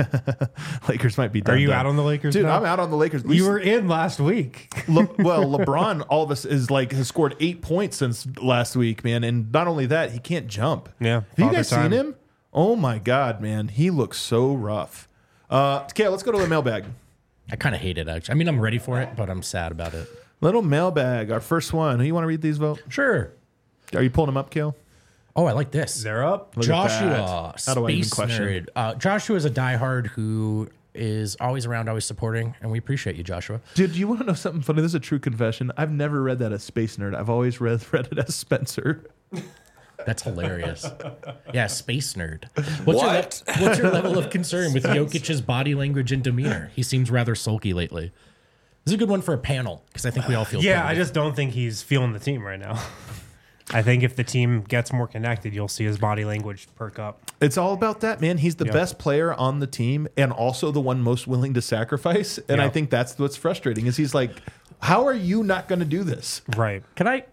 Lakers might be done. Are you done. out on the Lakers Dude, now? I'm out on the Lakers. We You were in last week. Le- well, LeBron, all of us is like has scored eight points since last week, man. And not only that, he can't jump. Yeah, have you father guys time. seen him? Oh my God, man, he looks so rough. Uh, okay, let's go to the mailbag. I kind of hate it, actually. I mean, I'm ready for it, but I'm sad about it. Little mailbag, our first one. Who you want to read these, Vote? Sure. Are you pulling them up, Kale? Oh, I like this. They're up. Look at Joshua, that. How do I even Space question? Nerd. Uh, Joshua is a diehard who is always around, always supporting, and we appreciate you, Joshua. Dude, you want to know something funny? This is a true confession. I've never read that as Space Nerd. I've always read, read it as Spencer. That's hilarious. Yeah, Space Nerd. What's What? Your, le- what's your level of concern with Jokic's body language and demeanor? He seems rather sulky lately. This is a good one for a panel because I think we all feel. Yeah, pretty I good. just don't think he's feeling the team right now. I think if the team gets more connected, you'll see his body language perk up. It's all about that, man. He's the Yeah. best player on the team and also the one most willing to sacrifice. And Yeah. I think that's what's frustrating is he's like, how are you not going to do this? Right. Can I?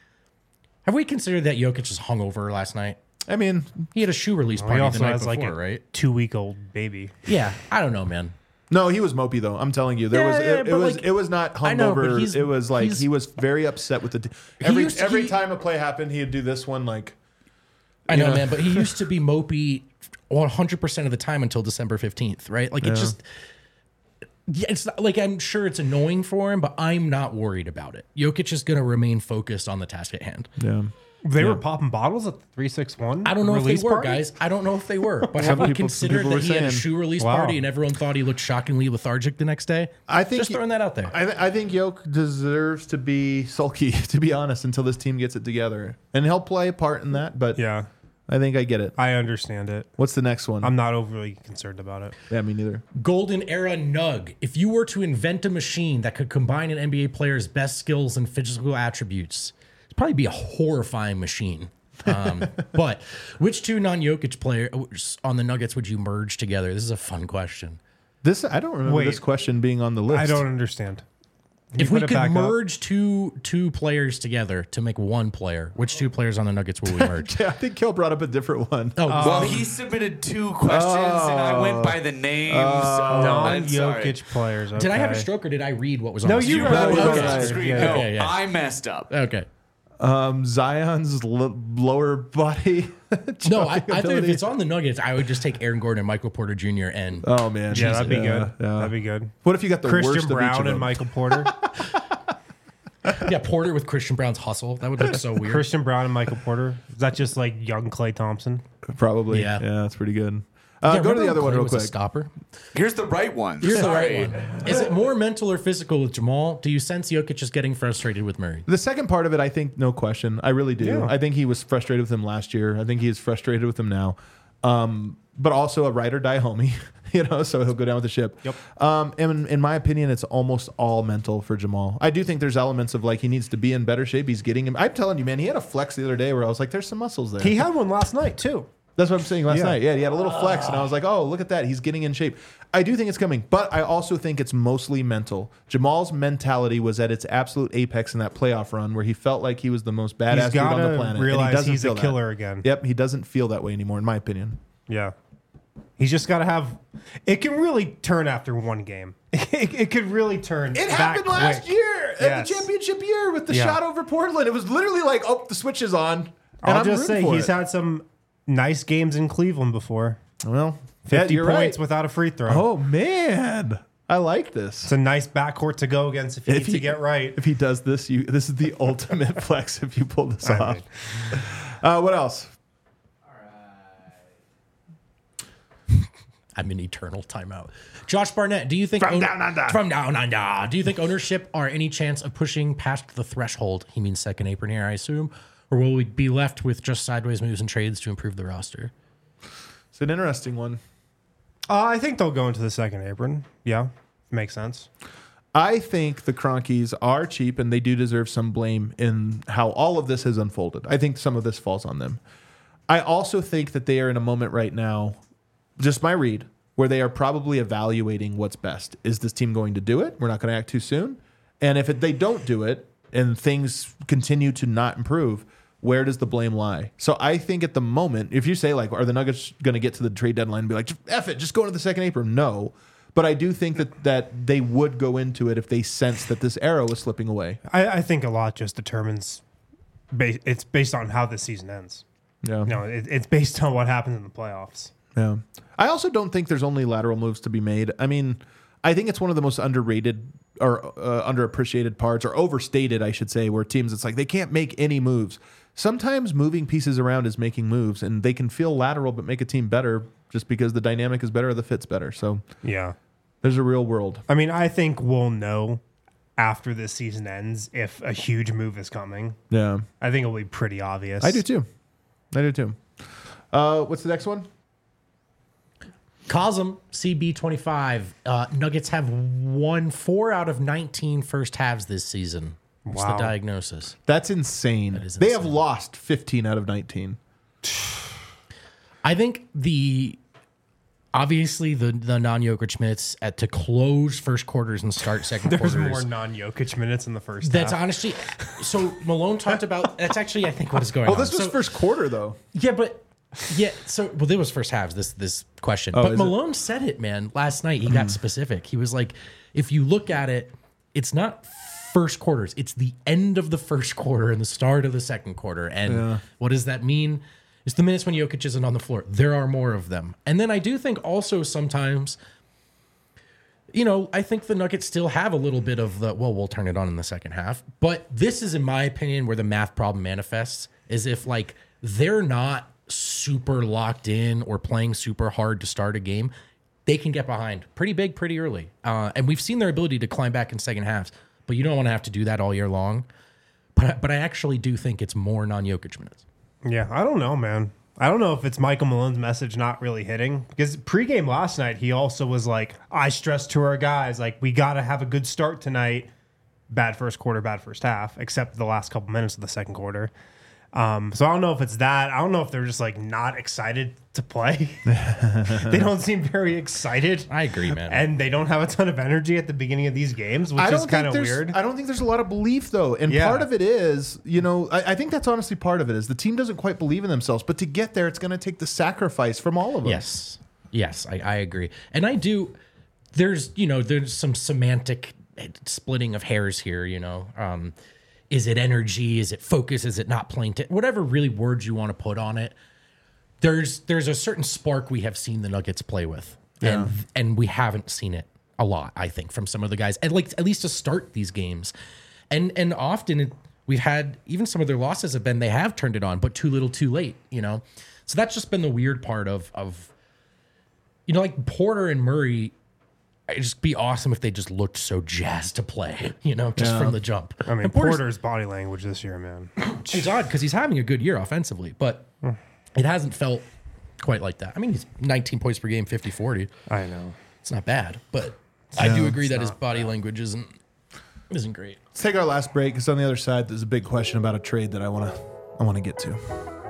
Have we considered that Jokic was hungover last night? I mean, He had a shoe release He party the also night has before, like a right? two week old baby. Yeah, I don't know, man. no, he was mopey though. I'm telling you, there Yeah, was yeah, it, it but, was like, it was not I know, but hungover. he's- It was like he's- he was very upset with the. T- every used to- every he- time a play happened, he'd do this one like. I know, Yeah. man, but he used to be mopey one hundred percent of the time until December fifteenth, right? Like, it just, yeah, it's not, like, I'm sure it's annoying for him, but I'm not worried about it. Jokic is going to remain focused on the task at hand. Yeah. They were popping bottles at the three six one. I don't know if they were, guys. I don't know if they were. But have we people- some considered people that were he had a saying- shoe release Wow. party and everyone thought he looked shockingly lethargic the next day? I think Just he- throwing that out there. I, th- I think Yoke deserves to be sulky, to be honest, until this team gets it together, and he'll play a part in that. But Yeah, I think I get it. I understand it. What's the next one? I'm not overly concerned about it. yeah, me neither. Golden Era Nug. If you were to invent a machine that could combine an N B A player's best skills and physical attributes, it'd probably be a horrifying machine. Um, but which two non-Jokic players on the Nuggets would you merge together? This is a fun question. This I don't remember Wait. this question being on the list. I don't understand. Can you If we put it could back up? merge two two players together to make one player, which two players on the Nuggets will we merge? Yeah, I think Kel brought up a different one. Oh, Well, he submitted two questions, and I went by the names. I'm sorry. non-Jokic players. did I have a okay. stroke or did I read what was on No, the you screen? read No, what you was read on the it. screen. No, Yeah. Okay, yeah. I messed up. Okay. Um, Zion's l- lower body. No, I, I jumping think if ability. it's on the Nuggets, I would just take Aaron Gordon and Michael Porter Junior and Oh man, Yeah, that'd be Yeah, good. yeah. That'd be good. What if you got the Christian worst of each Brown of them? and Michael Porter. yeah, Porter with Christian Brown's hustle. That would look so weird. Christian Brown and Michael Porter. Is that just like young Klay Thompson? Probably. Yeah. Yeah, that's pretty good. Uh, Yeah, go to remember the other when one Klay real was a quick. stopper. Here's the right one. Here's the Sorry. right one. Is it more mental or physical with Jamal? Do you sense Jokic is getting frustrated with Murray? The second part of it, I think, no question. I really do. Yeah. I think he was frustrated with him last year. I think he is frustrated with him now. Um, but also a ride or die homie, you know, so he'll go down with the ship. Yep. Um, and in my opinion, it's almost all mental for Jamal. I do think there's elements of like he needs to be in better shape. He's getting him. I'm telling you, man, he had a flex the other day where I was like, there's some muscles there. He had one last night too. That's what I'm saying last Yeah. night. Yeah, he had a little flex, and I was like, oh, look at that. He's getting in shape. I do think it's coming, but I also think it's mostly mental. Jamal's mentality was at its absolute apex in that playoff run where he felt like he was the most badass He's dude on the gotta planet. and realize he doesn't he's a feel that. killer again. Yep, he doesn't feel that way anymore, in my opinion. Yeah. He's just got to have. It can really turn after one game. It, it could really turn. It that happened last quick. year Yes. at the championship year with the Yeah. shot over Portland. It was literally like, oh, the switch is on. And I'll I'm just rooting say for he's it. had some nice games in Cleveland before. well, fifty yeah, you're points right. without a free throw. Oh man, I like this. It's a nice backcourt to go against if you If need he- to get right. If he does this, you this is the ultimate flex if you pull this I off. mean. Uh, what else? I'm in eternal timeout. Josh Barnett, do you think From down under. from down under? Do you think ownership are any chance of pushing past the threshold? He means second apron here, I assume, or will we be left with just sideways moves and trades to improve the roster? It's an interesting one. Uh, I think they'll go into the second apron. Yeah, makes sense. I think the Cronkies are cheap and they do deserve some blame in how all of this has unfolded. I think some of this falls on them. I also think that they are in a moment right now, just my read, where they are probably evaluating what's best. Is this team going to do it? We're not going to act too soon. And if it, they don't do it and things continue to not improve, where does the blame lie? So I think at the moment, if you say, like, are the Nuggets going to get to the trade deadline and be like, F it, just go into the second apron? No. But I do think that, that they would go into it if they sense that this arrow is slipping away. I, I think a lot just determines, ba- it's based on how this season ends. Yeah. No, it, it's based on what happens in the playoffs. Yeah. I also don't think there's only lateral moves to be made. I mean, I think it's one of the most underrated or uh, underappreciated parts, or overstated, I should say, where teams, it's like they can't make any moves. Sometimes moving pieces around is making moves, and they can feel lateral but make a team better just because the dynamic is better or the fit's better. So Yeah. there's a real world. I mean, I think we'll know after this season ends if a huge move is coming. Yeah. I think it'll be pretty obvious. I do too. I do too. Uh, what's the next one? Cosm, C B twenty-five. Uh, Nuggets have won four out of nineteen first halves this season. What's Wow. the diagnosis? That's insane. is They have insane. lost fifteen out of nineteen. I think the obviously the the non-Jokic minutes at to close first quarters and start second There's quarters. more non-Jokic minutes in the first That's half. honestly so Malone talked about that's actually I think what is going Oh, on. this was So- first quarter, though. Yeah, but yeah, so well, there was first halves. This this question, Oh, but is it? Malone said it, man. Last night he got specific. He was like, if you look at it, it's not first quarters. It's the end of the first quarter and the start of the second quarter. And what does that mean? It's the minutes when Jokic isn't on the floor. There are more of them. And then I do think also sometimes, you know, I think the Nuggets still have a little bit of the, well, we'll turn it on in the second half. But this is, in my opinion, where the math problem manifests, is if, like, they're not super locked in or playing super hard to start a game, they can get behind pretty big, pretty early. Uh, and we've seen their ability to climb back in second halves. But you don't want to have to do that all year long. But, I- but I actually do think it's more non-Jokic minutes. Yeah, I don't know, man. I don't know if it's Michael Malone's message not really hitting, because pregame last night, he also was like, I stressed to our guys, like, we got to have a good start tonight. Bad first quarter, bad first half, except the last couple minutes of the second quarter. Um, so I don't know if it's that. I don't know if they're just like not excited to play. They don't seem very excited. I agree, man. And they don't have a ton of energy at the beginning of these games, which I is don't kind think of there's. weird. I don't think there's a lot of belief though, and Yeah. part of it is, you know, I, I think that's honestly part of it is the team doesn't quite believe in themselves. But to get there, it's going to take the sacrifice from all of them. Yes. Yes, I, I agree. And I do, there's, you know, there's some semantic splitting of hairs here, you know. Um, is it energy? Is it focus? Is it not playing? T- whatever really words you want to put on it. There's there's a certain spark we have seen the Nuggets play with. And and we haven't seen it a lot, I think, from some of the guys. And like at least to start these games. And and often it, we've had, even some of their losses have been, they have turned it on, but too little too late, you know. So that's just been the weird part of of you know, like Porter and Murray, it'd just be awesome if they just looked so jazzed to play, you know, just from the jump. I mean, And Porter's- Porter's body language this year, man. It's odd because he's having a good year offensively, but it hasn't felt quite like that. I mean, he's nineteen points per game, fifty forty. I know. It's not bad, but I do agree that his body language isn't isn't great. Let's take our last break because on the other side, there's a big question about a trade that I want to I want to get to.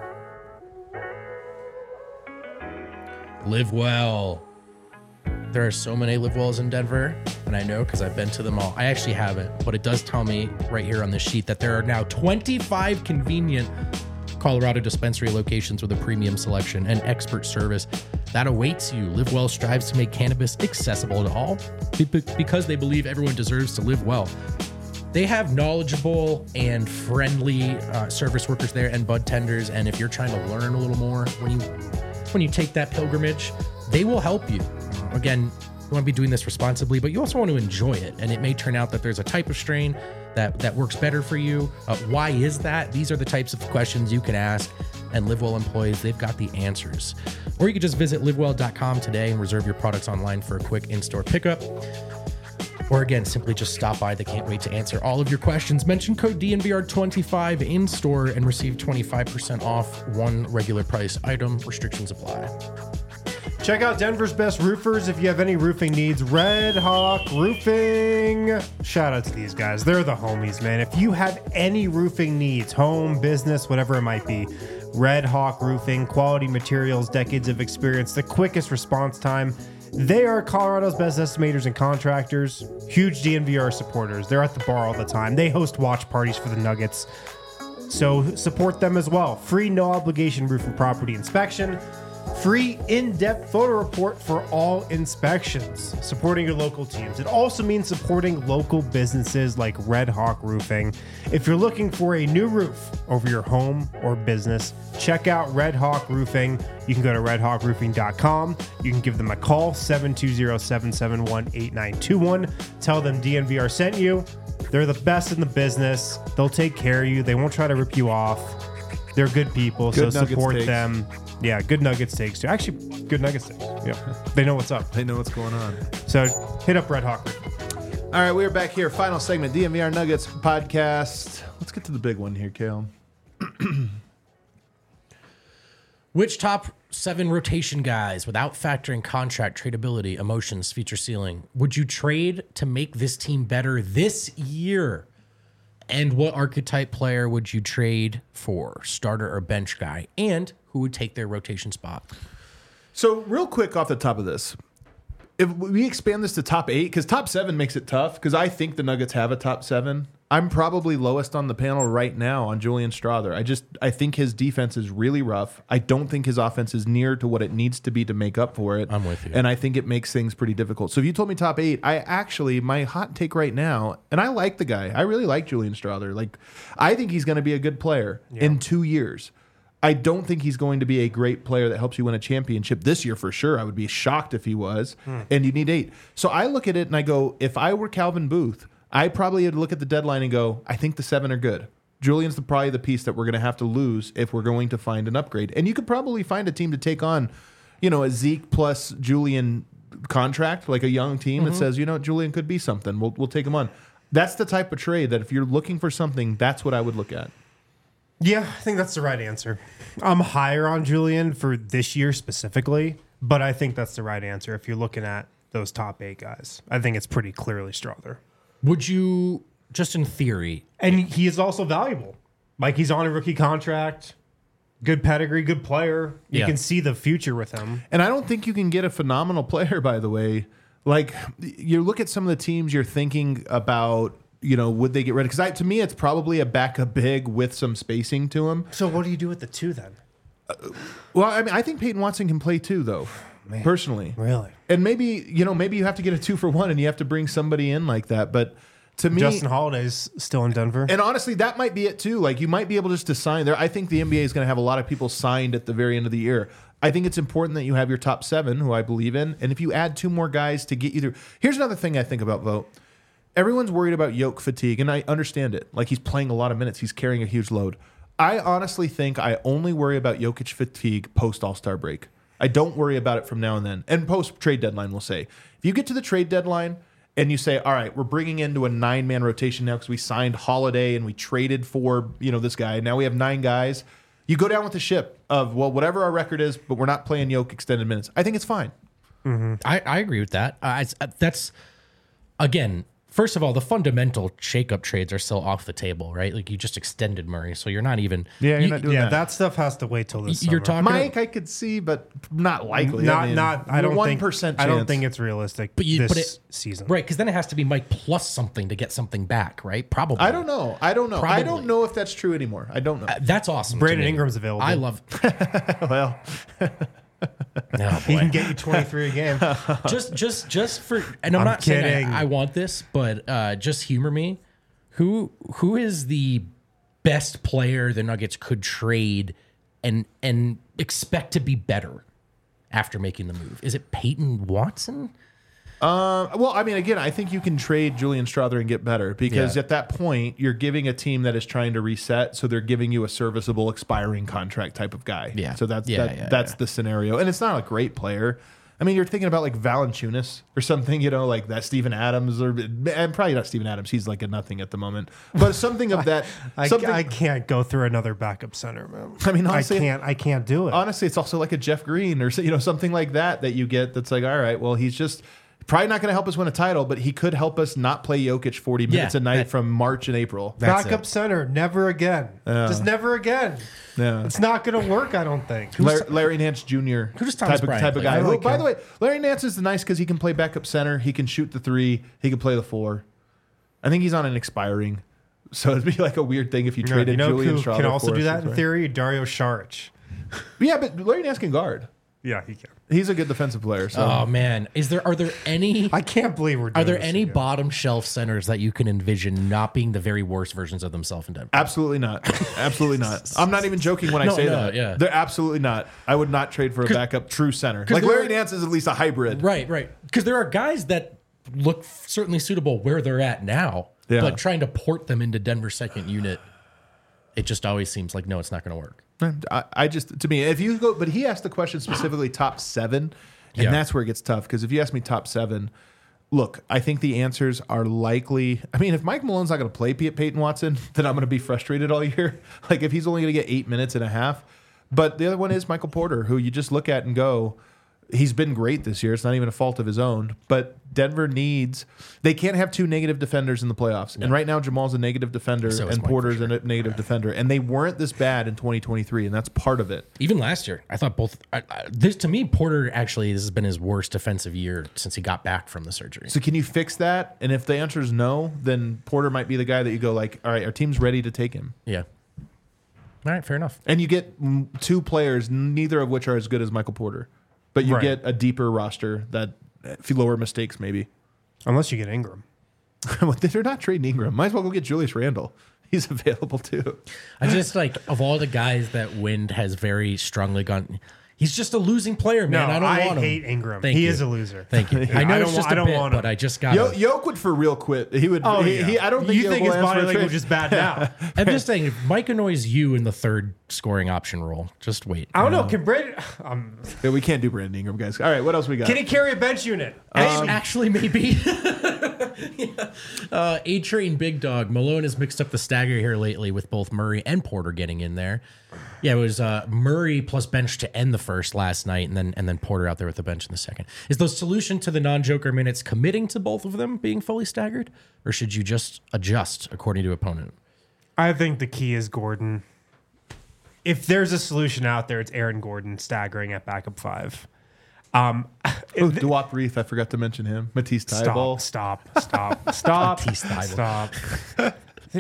Live well. There are so many live wells in Denver, and I know because I've been to them all. I actually haven't, but it does tell me right here on this sheet that there are now twenty-five convenient Colorado dispensary locations with a premium selection and expert service that awaits you. Live Well strives to make cannabis accessible to all be- because they believe everyone deserves to live well. They have knowledgeable and friendly uh, service workers there and bud tenders, and if you're trying to learn a little more when you when you take that pilgrimage, they will help you. Again, you want to be doing this responsibly, but you also want to enjoy it. And it may turn out that there's a type of strain that, that works better for you. Uh, why is that? These are the types of questions you can ask. And LiveWell employees, they've got the answers. Or you could just visit live well dot com today and reserve your products online for a quick in-store pickup. Or again, simply just stop by. They can't wait to answer all of your questions. Mention code D N V R twenty-five in store and receive twenty-five percent off one regular price item. Restrictions apply. Check out Denver's best roofers if you have any roofing needs. Red Hawk Roofing. Shout out to these guys. They're the homies, man. If you have any roofing needs, home, business, whatever it might be, Red Hawk Roofing, quality materials, decades of experience, the quickest response time. They are Colorado's best estimators and contractors. Huge D N V R supporters. They're at the bar all the time. They host watch parties for the Nuggets. So support them as well. Free no obligation roof and property inspection. Free in-depth photo report for all inspections. Supporting your local teams. It also means supporting local businesses like Red Hawk Roofing. If you're looking for a new roof over your home or business, check out Red Hawk Roofing. You can go to red hawk roofing dot com. You can give them a call, seven two zero, seven seven one, eight nine two one. Tell them D N V R sent you. They're the best in the business. They'll take care of you. They won't try to rip you off. They're good people, Good so Nuggets support takes. them. Yeah, good Nuggets takes too. Actually, good Nuggets takes. Yeah, they know what's up. They know what's going on. So hit up Red Hawk. All right, we're back here. Final segment, D N V R Nuggets podcast. Let's get to the big one here, Kale. Which top seven rotation guys, without factoring contract, tradability, emotions, feature ceiling, would you trade to make this team better this year? And what archetype player would you trade for, starter or bench guy? And who would take their rotation spot? So, real quick off the top of this, if we expand this to top eight, because top seven makes it tough, because I think the Nuggets have a top seven. I'm probably lowest on the panel right now on Julian Strawther. I just I think his defense is really rough. I don't think his offense is near to what it needs to be to make up for it. I'm with you. And I think it makes things pretty difficult. So if you told me top eight, I actually, my hot take right now, and I like the guy. I really like Julian Strawther. Like, I think he's going to be a good player in two years. I don't think he's going to be a great player that helps you win a championship this year for sure. I would be shocked if he was. Hmm. And you need eight. So I look at it and I go, if I were Calvin Booth, I probably would look at the deadline and go, I think the seven are good. Julian's the, probably the piece that we're going to have to lose if we're going to find an upgrade. And you could probably find a team to take on, you know, a Zeke plus Julian contract, like a young team Mm-hmm. that says, you know, Julian could be something. We'll, we'll take him on. That's the type of trade that if you're looking for something, that's what I would look at. Yeah, I think that's the right answer. I'm higher on Julian for this year specifically, but I think that's the right answer if you're looking at those top eight guys. I think it's pretty clearly Strawther. Would you, just in theory, And he is also valuable. Like, he's on a rookie contract, good pedigree, good player. You Yeah. can see the future with him. And I don't think you can get a phenomenal player, by the way. Like, you look at some of the teams you're thinking about, you know, would they get rid of? Because to me, it's probably a backup big with some spacing to him. So what do you do with the two then? Well, I mean, I think Peyton Watson can play too, though, personally. Really? And maybe, you know, maybe you have to get a two for one and you have to bring somebody in like that. But to me, Justin Holiday's still in Denver. and honestly, that might be it too. Like, you might be able just to sign there. I think the N B A is going to have a lot of people signed at the very end of the year. I think it's important that you have your top seven, who I believe in. And if you add two more guys to get you through. Here's another thing I think about, Vote. Everyone's worried about Yoke fatigue, and I understand it. Like, he's playing a lot of minutes. He's carrying a huge load. I honestly think I only worry about Jokic fatigue post All-Star break. I don't worry about it from now and then. And post trade deadline, we'll say. If you get to the trade deadline and you say, all right, we're bringing into a nine-man rotation now because we signed Holiday and we traded for, you know, this guy. Now we have nine guys. You go down with the ship of, well, whatever our record is, but we're not playing Yoke extended minutes. I think it's fine. I, I agree with that. Uh, it's, uh, that's, again, first of all, the fundamental shakeup trades are still off the table, right? Like, you just extended Murray, so you're not even. Yeah, you're you- not doing yeah, that. that stuff has to wait till this You're summer. talking. Mike, I could see, but not likely. Not, I mean, not. I don't one think. percent I don't chance. think it's realistic. But you- this but it- season, Right, because then it has to be Mike plus something to get something back, right? Probably. I don't know. I don't know. I Probably. don't know if that's true anymore. I don't know. Uh, that's awesome. to Brandon me. Ingram's available. I love. well, No, He boy. can get you twenty-three a game. just, just, just for. And I'm, I'm not saying kidding. I, I want this, but uh, just humor me. Who, who is the best player the Nuggets could trade and and expect to be better after making the move? Is it Peyton Watson? Uh, well, I mean, again, I think you can trade Julian Strawther and get better because Yeah. at that point, you're giving a team that is trying to reset, so they're giving you a serviceable expiring contract type of guy. Yeah. So that's Yeah, that, yeah, that's yeah. the scenario, and it's not a great player. I mean, you're thinking about like Valanciunas or something, you know, like that Steven Adams, or and probably not Steven Adams. He's like a nothing at the moment, but something of that. I, something, I can't go through another backup center, man. I mean, honestly, I can't. I can't do it. honestly, it's also like a Jeff Green or you know something like that that you get. That's like, all right, well, he's just probably not going to help us win a title, but he could help us not play Jokic forty minutes Yeah, a night that- from March and April. That's Backup it. center, never again. Just never again. Yeah. It's not going to work, I don't think. Larry, Larry Nance Junior Who does Thomas type of, Bryant type of play? guy. I Who, like by him. the way, Larry Nance is nice because he can play backup center. He can shoot the three. He can play the four. I think he's on an expiring. So it'd be like a weird thing if you You know, traded you know Julian who Strawther can also for do us, that in right? theory? Dario Saric. Yeah, but Larry Nance can guard. Yeah, he can. He's a good defensive player. So Oh man, is there are there any I can't believe we're doing are there this any again. bottom shelf centers that you can envision not being the very worst versions of themselves in Denver? absolutely not. Absolutely not. I'm not even joking when I No, say no, that. yeah. They're absolutely not. I would not trade for a backup true center. Like there Larry are- Nance is at least a hybrid. Right, right. Because there are guys that look certainly suitable where they're at now, Yeah. but trying to port them into Denver's second unit, it just always seems like no, it's not going to work. I, I just to me, if you go, but he asked the question specifically top seven, and Yeah. that's where it gets tough. Because if you ask me top seven, look, I think the answers are likely. I mean, if Mike Malone's not going to play Pey- Peyton Watson, then I'm going to be frustrated all year. Like if he's only going to get eight minutes and a half. But the other one is Michael Porter, who you just look at and go, he's been great this year. It's not even a fault of his own. But Denver needs, they can't have two negative defenders in the playoffs. And right now, Jamal's a negative defender So is and Mike, Porter's for a negative defender. And they weren't this bad in twenty twenty-three, and that's part of it. Even last year, I thought both. I, I, this to me, Porter actually this has been his worst defensive year since he got back from the surgery. So can you fix that? And if the answer is no, then Porter might be the guy that you go like, all right, our team's ready to take him. Yeah. All right, fair enough. And you get mm, two players, neither of which are as good as Michael Porter. But you Right. get a deeper roster that uh, lower mistakes maybe. Unless you get Ingram. Well, they're not trading Ingram. Might as well go get Julius Randle. He's available too. I just like of all the guys that Wind has very strongly gone. He's just a losing player, man. No, I don't I want him. hate Ingram. Thank he you. is a loser. Thank you. I know I it's don't just wa- a I don't bit, want him. but I just got. Yo- Yoke would for real quit. He would. Oh, he, yeah. he- I don't think you Yoke think will his ask body for a language trade. is bad now. I'm just saying, if Mike annoys you in the third scoring option role, just wait. I don't know. Can Brandon? Um, Yeah, we can't do Brandon Ingram, guys. All right, what else we got? can he carry a bench unit? Act- Actually, maybe. yeah. uh, A Train Big Dog Malone has mixed up the stagger here lately with both Murray and Porter getting in there. Yeah, it was uh, Murray plus bench to end the first last night, and then and then Porter out there with the bench in the second. Is the solution to the non-Joker minutes committing to both of them being fully staggered, or should you just adjust according to opponent? I think the key is Gordon. If there's a solution out there, it's Aaron Gordon staggering at backup five. Um, Oh, Duop Reef, I forgot to mention him. Matisse Thybulle. stop, stop, stop, stop, Matisse Thybulle. stop.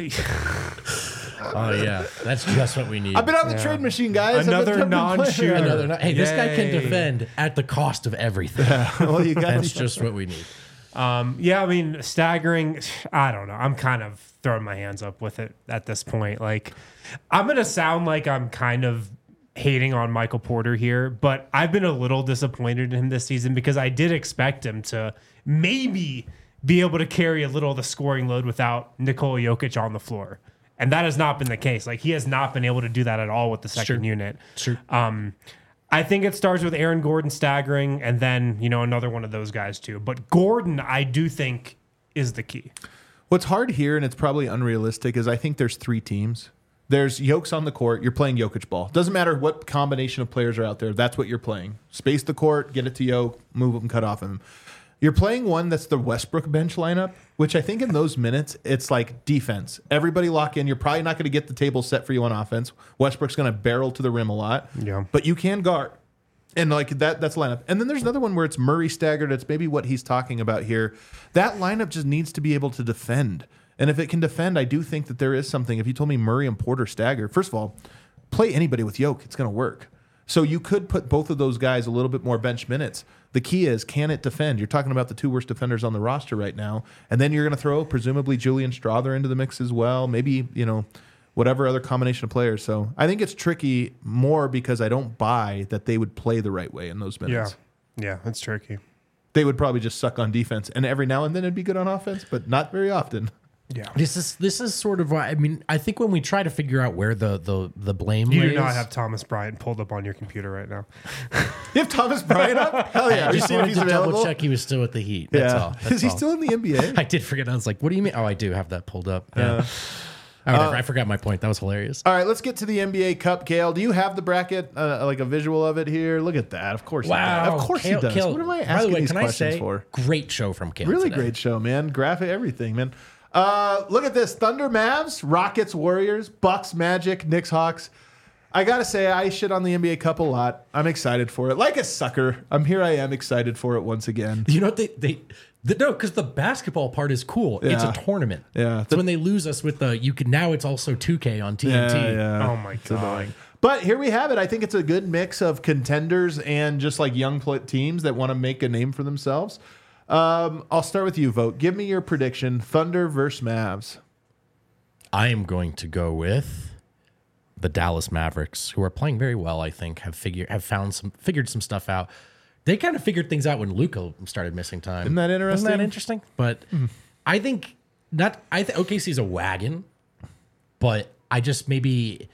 Oh yeah, that's just what we need. I've been on the Yeah. trade machine, guys. I've been- Another I've been playing. non-shooter. Another, no- hey, this guy can Yay. defend at the cost of everything. Well, you got That's just what we need. Um, yeah, I mean, staggering. I don't know. I'm kind of throwing my hands up with it at this point. Like, I'm gonna sound like I'm kind of hating on Michael Porter here, but I've been a little disappointed in him this season because I did expect him to maybe be able to carry a little of the scoring load without Nikola Jokic on the floor. And that has not been the case. Like, he has not been able to do that at all with the second Sure. unit. Sure. Um, I think it starts with Aaron Gordon staggering and then, you know, another one of those guys too. But Gordon, I do think, is the key. What's hard here, and it's probably unrealistic, is I think there's three teams. There's Jokes on the court. You're playing Jokic ball. Doesn't matter what combination of players are out there. That's what you're playing. Space the court, get it to Joke, move him, cut off him. You're playing one that's the Westbrook bench lineup, which I think in those minutes, it's like defense. Everybody lock in. You're probably not going to get the table set for you on offense. Westbrook's going to barrel to the rim a lot. Yeah. But you can guard. And like that, that's lineup. And then there's another one where it's Murray staggered. It's maybe what he's talking about here. That lineup just needs to be able to defend. And if it can defend, I do think that there is something. If you told me Murray and Porter stagger, first of all, play anybody with Yoke. It's going to work. So you could put both of those guys a little bit more bench minutes. The key is, can it defend? You're talking about the two worst defenders on the roster right now. And then you're going to throw presumably Julian Strawther into the mix as well. Maybe, you know, whatever other combination of players. So I think it's tricky more because I don't buy that they would play the right way in those minutes. Yeah. Yeah, it's tricky. They would probably just suck on defense. And every now and then it'd be good on offense, but not very often. Yeah. This is this is sort of why I mean I think when we try to figure out where the the the blame You lays, do not have Thomas Bryant pulled up on your computer right now. You have Thomas Bryant up? Hell yeah. I Are you just seeing if wanted he's to double available? check he was still at the Heat. That's Yeah. all. That's Is he all. still in the N B A? I did forget. I was like, what do you mean? Oh, I do have that pulled up. Yeah. Oh, whatever. I forgot my point. That was hilarious. All right, let's get to the N B A Cup. Kale, do you have the bracket, uh, like a visual of it here? Look at that. Of course he does. Of course Kale- he does. Kale- What am I By the asking way, these can I questions say, for? great show from Kale Really today. great show, man. Graphic, everything, man. Uh, look at this. Thunder, Mavs, Rockets, Warriors, Bucks, Magic, Knicks, Hawks. I got to say, I shit on the N B A Cup a lot. I'm excited for it. Like a sucker. I'm here. I am excited for it once again. You know what they they the, no because the basketball part is cool. It's Yeah. a tournament. Yeah. So when they lose us with the you can now it's also two K on T N T. Yeah, yeah. Oh my god. But here we have it. I think it's a good mix of contenders and just like young pl- teams that want to make a name for themselves. Um, I'll start with you, Vote. Give me your prediction. Thunder versus Mavs. I am going to go with the Dallas Mavericks, who are playing very well. I think have figured have found some figured some stuff out. They kind of figured things out when Luka started missing time. Isn't that interesting? Isn't that interesting? But I think not. I think O K C's a wagon, but I just maybe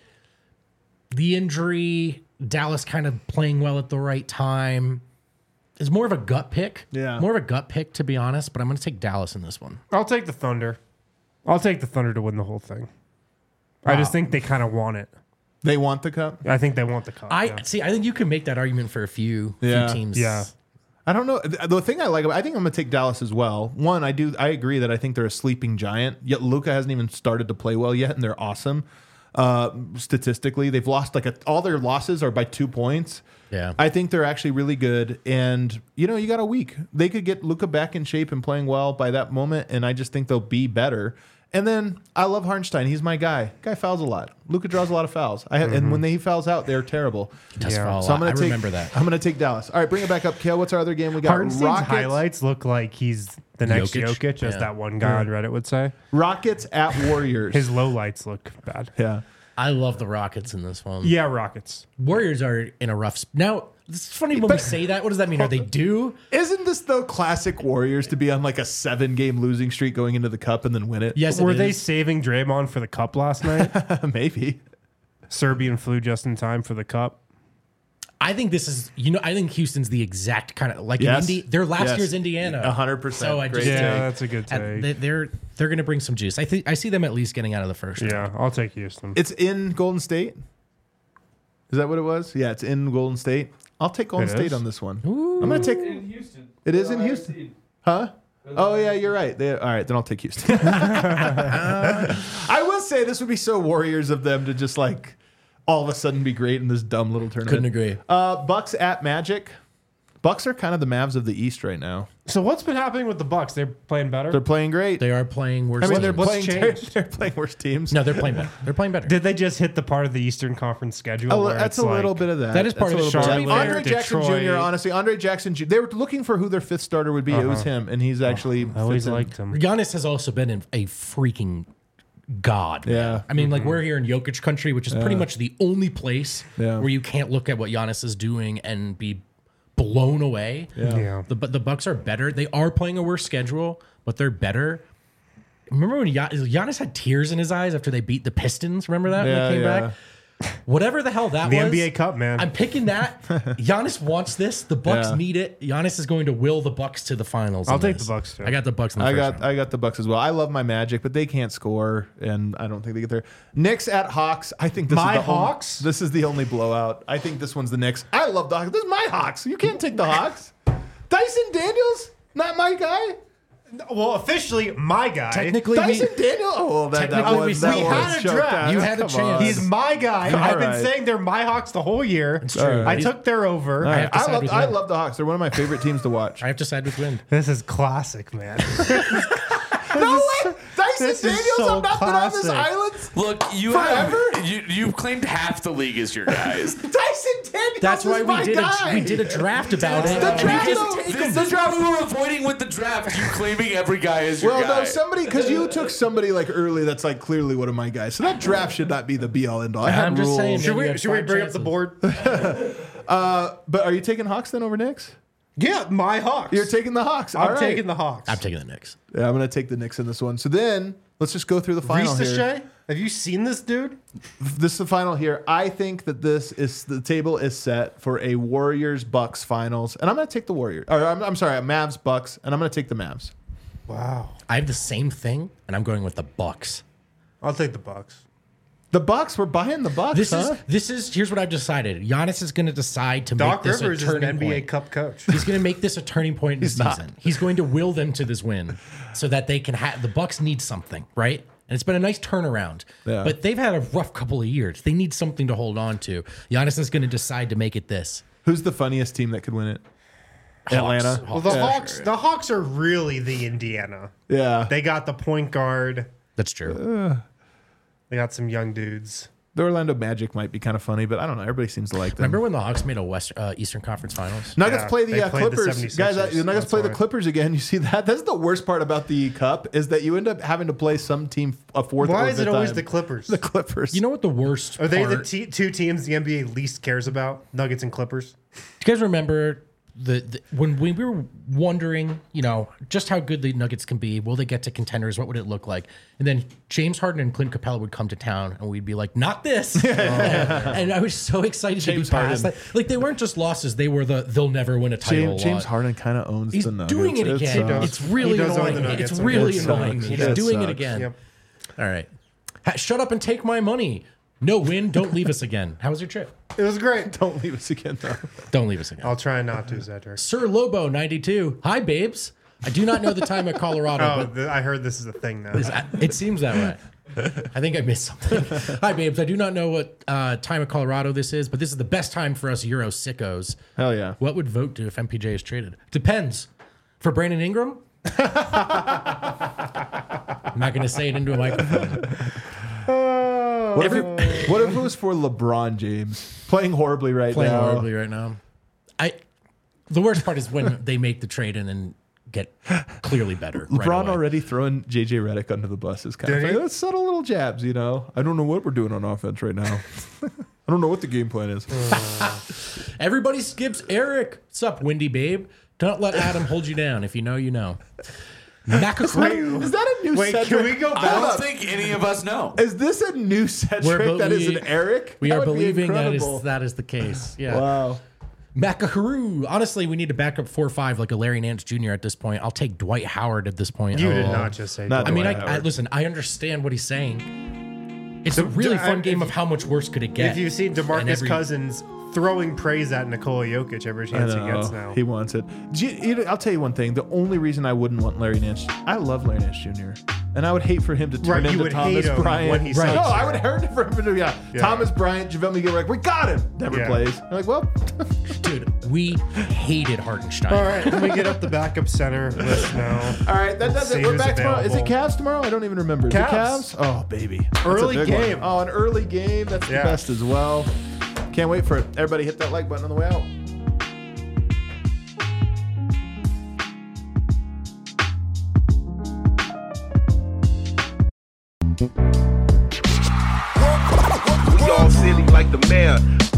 the injury, Dallas kind of playing well at the right time is more of a gut pick. Yeah. more of a gut pick to be honest. But I'm going to take Dallas in this one. I'll take the Thunder. I'll take the Thunder to win the whole thing. I just think they kind of want it. They want the cup? I think they want the cup. I yeah. see. I think you can make that argument for a few, Yeah. few teams. Yeah. I don't know. The the thing I like, about, I think I'm going to take Dallas as well. One, I do. I agree that I think they're a sleeping giant. Yet Luka hasn't even started to play well yet, and they're awesome. Uh, statistically, they've lost like a, all their losses are by two points. Yeah. I think they're actually really good. And you know, you got a week. They could get Luka back in shape and playing well by that moment, and I just think they'll be better. And then I love Harnstein. He's my guy. Guy fouls a lot. Luka draws a lot of fouls. I have, and when they, he fouls out, they're terrible. Does Yeah. foul a So I'm lot. gonna I take, remember that. I'm going to take Dallas. All right, bring it back up, Kale. What's our other game? We got Hardenstein's Rockets. highlights look like he's the next Jokic? Jokic, as Yeah. that one guy on Reddit would say. Rockets at Warriors. His lowlights look bad. yeah. I love the Rockets in this one. Yeah, Rockets. Warriors are in a rough. Sp- now it's funny when we But- say that. What does that mean? Are they due? Isn't this the classic Warriors to be on like a seven game losing streak going into the cup and then win it? Yes. it Were they is. saving Draymond for the cup last night? Maybe. Serbian flew just in time for the cup. I think this is. You know. I think Houston's the exact kind of like Yes. in Indy. They're last Yes. year's Indiana. A hundred percent. So I Great just take. Yeah, that's a good and take. they- they're they're going to bring some juice. I think I see them at least getting out of the first round. Yeah, I'll take Houston. It's in Golden State. Is that what it was? Yeah, it's in Golden State. I'll take Golden It State is? on this one. I'm gonna take. In Houston. It is in Houston, huh? Oh yeah, you're right. They, all right, then I'll take Houston. I will say this would be so Warriors of them to just like all of a sudden be great in this dumb little tournament. Couldn't agree. Uh, Bucks at Magic. Bucks are kind of the Mavs of the East right now. So what's been happening with the Bucks? They're playing better. They're playing great. They are playing worse. I mean, they're teams. playing. They're, changed? they're playing worse teams. No, they're playing better. They're playing better. Did they just hit the part of the Eastern Conference schedule? A li- where that's it's a little like- bit of that. That is part That's of a it. little bit of Charlotte, that. Andre Jackson Detroit. Junior Honestly, Andre Jackson. Junior They were looking for who their fifth starter would be. It was him, and he's actually. I always fits in. liked him. Giannis has also been in a freaking god. man. Yeah. I mean, like we're here in Jokic country, which is pretty much the only place Yeah. where you can't look at what Giannis is doing and be blown away. Yeah. The but the Bucks are better. They are playing a worse schedule, but they're better. Remember when Gian- Giannis had tears in his eyes after they beat the Pistons? Remember that Yeah, when they came yeah. back? Whatever the hell that The was. N B A Cup, man. I'm picking that. Giannis wants this. The Bucks Yeah. need it. Giannis is going to will the Bucks to the finals. I'll in take this. the Bucks, too. I got the Bucks in the I first got round. I got the Bucks as well. I love my Magic, but they can't score, and I don't think they get there. Knicks at Hawks. I think this My is the only- Hawks? this is the only blowout. I think this one's the Knicks. I love the Hawks. This is my Hawks. You can't take the Hawks. Dyson Daniels, not my guy. Well, officially, my guy. Technically, Dyson we, Daniels. Oh, that, that Technically, was we that we was had a choked draft. out. You had a Come chance. on. He's my guy. All I've been right. saying they're my Hawks the whole year. It's true. I took their over. All right. have to I side love with I Wind. love the Hawks. They're one of my favorite teams to watch. I have to side with Wind. This is classic, man. No way, Dyson this is Daniels. so I'm not been on this classic. island. Look, you Forever? have you you've claimed half the league as your guys. Dyson Daniels. That's is why my we did guy. a, we did a draft about it. The We draft, just though, take This them. is what we were avoiding with the draft. You claiming every guy as your Well, guy. no, somebody because you took somebody like early that's like clearly one of my guys. So that draft should not be the be all end all. I had I'm just rules. saying. should man, you we had should we five bring up the chances. board? But are you taking Hawks then over Knicks? Yeah, my Hawks. You're taking the Hawks. I'm All right. taking the Hawks. I'm taking the Knicks. Yeah, I'm going to take the Knicks in this one. So then Let's just go through the final Reese here. Shea? Have you seen this dude? This is the final here. I think that this is the table is set for a Warriors Bucks finals, and I'm going to take the Warriors. Or I'm, I'm sorry, Mavs Bucks, and I'm going to take the Mavs. Wow. I have the same thing, and I'm going with the Bucks. I'll take the Bucks. The Bucks, we're buying the Bucks. This huh? is this is here's what I've decided. Giannis is going to decide to Doc make this Rivers a is an turning N B A point. Cup coach. He's going to make this a turning point in the He's not. season. He's going to will them to this win, so that they can have the Bucks need something, right? And it's been a nice turnaround, Yeah. but they've had a rough couple of years. They need something to hold on to. Giannis is going to decide to make it this. Who's the funniest team that could win it? Hawks. Atlanta. Well, the Yeah. Hawks, the Hawks are really the Indiana. Yeah. They got the point guard. That's true. They got some young dudes. The Orlando Magic might be kind of funny, but I don't know. Everybody seems to like them. Remember when the Hawks made a West uh, Eastern Conference Finals? Nuggets Yeah, play the they uh, played the Clippers. Guys, uh, 76ers, the Nuggets that's play the why. Clippers again. You see that? That's the worst part about the Cup is that you end up having to play some team a fourth or Why is fifth it always time. the Clippers? The Clippers. You know what the worst Are they the part- te- two teams the N B A least cares about? Nuggets and Clippers? Do you guys remember the, the when we were wondering, you know, just how good the Nuggets can be? Will they get to contenders? What would it look like? And then James Harden and Clint Capella would come to town, and we'd be like, "Not this!" and, and I was so excited James to be past Harden. that. Like they weren't just losses; they were the they'll never win a title. James, James lot. Harden kind of owns He's the Nuggets. doing it It's, again. uh, It's really He does own annoying the me. Nuggets, It's okay. really It annoying sucks. me. It He's doing it sucks. again. Yep. All right, Ha- shut up and take my money. No win. Don't leave us again. How was your trip? It was great. Don't leave us again, though. Don't leave us again. I'll try not to, Zedric. Sir Lobo ninety-two. Hi, babes. I do not know the time at Colorado, Oh, but th- I heard this is a thing now. it seems that way. I think I missed something. Hi, babes. I do not know what uh, time of Colorado this is, but this is the best time for us Euro sickos. Hell yeah. What would Vote do if M P J is traded? Depends. For Brandon Ingram? I'm not going to say it into a microphone. What if, it, what if it was for LeBron James playing horribly right Playing now? horribly right now. I. The worst part is when they make the trade and then get clearly better. right LeBron away. already throwing J J Redick under the bus is kind Did of he? like, let's subtle little jabs, you know. I don't know what we're doing on offense right now. I don't know what the game plan is. Everybody skips Eric. What's up, Windy Babe? Don't let Adam hold you down. If you know, you know. Macacroon. Is that a new Wait, Cedric? can we go I back? don't think any of us know. Is this a new Cedric We're that is belie- an Eric? We That are would be believing that incredible. is that is the case. Yeah. Wow. Macakaroo. Honestly, we need to back up four or five like a Larry Nance Junior at this point. I'll take Dwight Howard at this point. You Oh. did not just say Not that. I mean, I, Dwight I Howard. listen. I understand what he's saying. It's a really I- fun game if- of how much worse could it get. If you've seen And DeMarcus every- Cousins throwing praise at Nikola Jokic every I chance he know. gets now. He wants it. Do you- you know, I'll tell you one thing. The only reason I wouldn't want Larry Nance, I love Larry Nance Junior And I would hate for him to turn Right, you into would Thomas hate him Bryant. when he right. sucks, No, I yeah. would hate for him to yeah. Yeah. Thomas Bryant, JaVale McGee, we're like, we got him. Never Yeah. plays. I'm like, well, dude, we hated Hartenstein. All right, let me get up the backup center list now. all right, that does See it. We're who's back tomorrow. Is it available. Cavs tomorrow? I don't even remember. Is it Cavs. Cavs? Oh, baby. That's a Early big one. game. Oh, an early game. That's Yeah. the best as well. Can't wait for it. Everybody hit that like button on the way out. We all silly like the mayor.